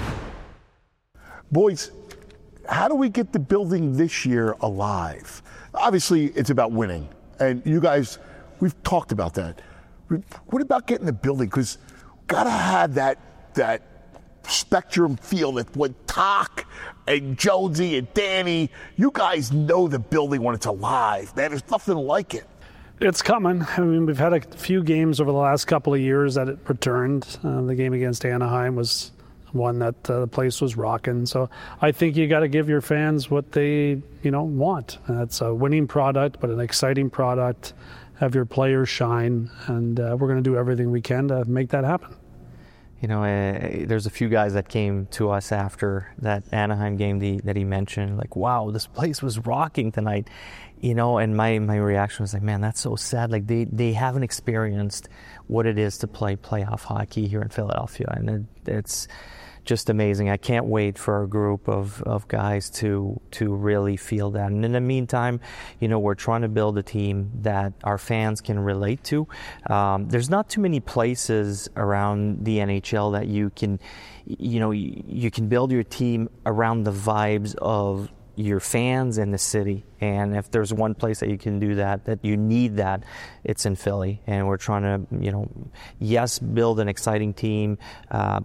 A: Boys, how do we get the building this year alive? Obviously, it's about winning. And you guys, we've talked about that. What about getting the building? Because got to have that that Spectrum feel that when Talk and Jonesy and Danny, you guys know the building when it's alive. Man, there's nothing like it.
C: It's coming. I mean, we've had a few games over the last couple of years that it returned. Uh, the game against Anaheim was one that uh, the place was rocking. So I think you got to give your fans what they, you know, want. And that's a winning product, but an exciting product. Have your players shine, and uh, we're going to do everything we can to make that happen.
D: You know, uh, there's a few guys that came to us after that Anaheim game the, that he mentioned, like, wow, this place was rocking tonight. You know, and my, my reaction was like, man, that's so sad. Like, they, they haven't experienced what it is to play playoff hockey here in Philadelphia. And it, it's just amazing. I can't wait for our group of, of guys to to really feel that. And in the meantime, you know, we're trying to build a team that our fans can relate to. Um, there's not too many places around the N H L that you can, you know, you, you can build your team around the vibes of your fans and the city. And if there's one place that you can do that, that you need that, it's in Philly. And we're trying to, you know, yes, build an exciting team, uh, but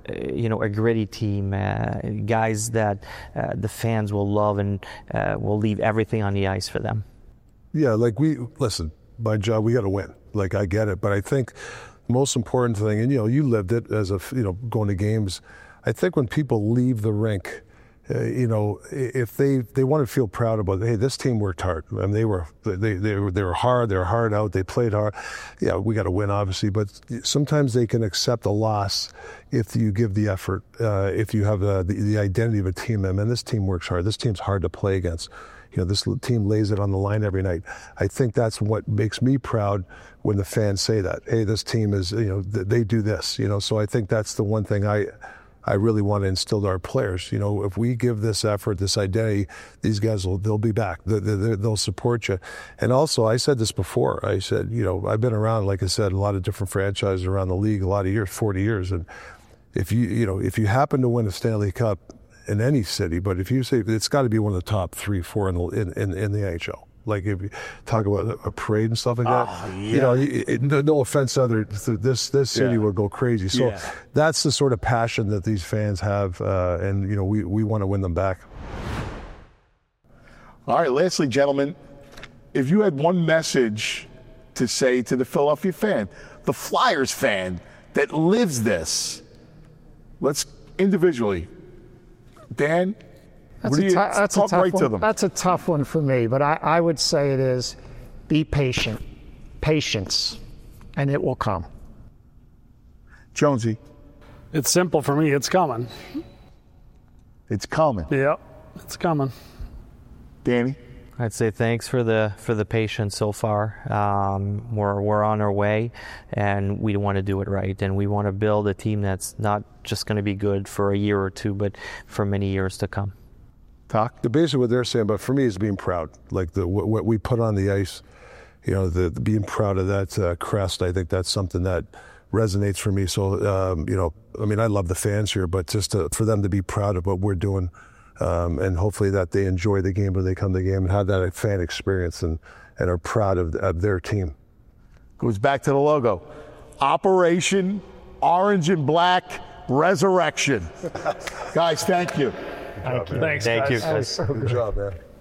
D: you know, a gritty team, uh, guys that uh, the fans will love and uh, will leave everything on the ice for them.
E: Yeah, like we, listen, my job, we got to win. Like, I get it. But I think the most important thing, and, you know, you lived it as a, you know, going to games. I think when people leave the rink, uh, you know, if they, they want to feel proud about, hey, this team worked hard. I mean, they were they they were, they were hard. They were hard out. They played hard. Yeah, we got to win, obviously. But sometimes they can accept a loss if you give the effort. Uh, if you have the, the the identity of a team. I mean, this team works hard. This team's hard to play against. You know, this team lays it on the line every night. I think that's what makes me proud when the fans say that. Hey, this team is, you know, they do this. You know, so I think that's the one thing I. I really want to instill to our players. You know, if we give this effort, this identity, these guys will, they'll be back. They, they, they'll support you. And also, I said this before. I said, you know, I've been around, like I said, a lot of different franchises around the league, a lot of years, forty years. And if you, you know, if you happen to win a Stanley Cup in any city, but if you say it's got to be one of the top three, four in the in, in, in the N H L. Like if you talk about a parade and stuff like that,
A: oh, yeah.
E: you know, it, no, no offense to other, this this city
A: yeah.
E: would go crazy. So
A: yeah.
E: that's the sort of passion that these fans have, uh, and you know, we we want to win them back.
A: All right, lastly, gentlemen, if you had one message to say to the Philadelphia fan, the Flyers fan that lives this, let's individually, Dan.
B: That's,
A: what do
B: a,
A: you,
B: t- that's
A: talk
B: a tough
A: right
B: one.
A: to them.
B: That's a tough one for me, but I, I would say it is be patient. Patience, and it will come.
A: Jonesy.
C: It's simple for me. It's coming.
A: It's coming.
C: Yep, it's coming.
A: Danny.
D: I'd say thanks for the for the patience so far. Um, we're we're on our way, and we want to do it right, and we want to build a team that's not just going to be good for a year or two, but for many years to come.
A: Talk.
E: The basically what they're saying, but for me, is being proud. Like the what, what we put on the ice, you know, the, the being proud of that uh, crest. I think that's something that resonates for me. So, um, you know, I mean, I love the fans here, but just to, for them to be proud of what we're doing. Um, and hopefully that they enjoy the game when they come to the game and have that fan experience and, and are proud of, of their team.
A: Goes back to the logo. Operation Orange and Black Resurrection. Guys, thank you.
C: Thank you. Thanks,
D: Thank
C: guys.
D: you.
E: Good job, man.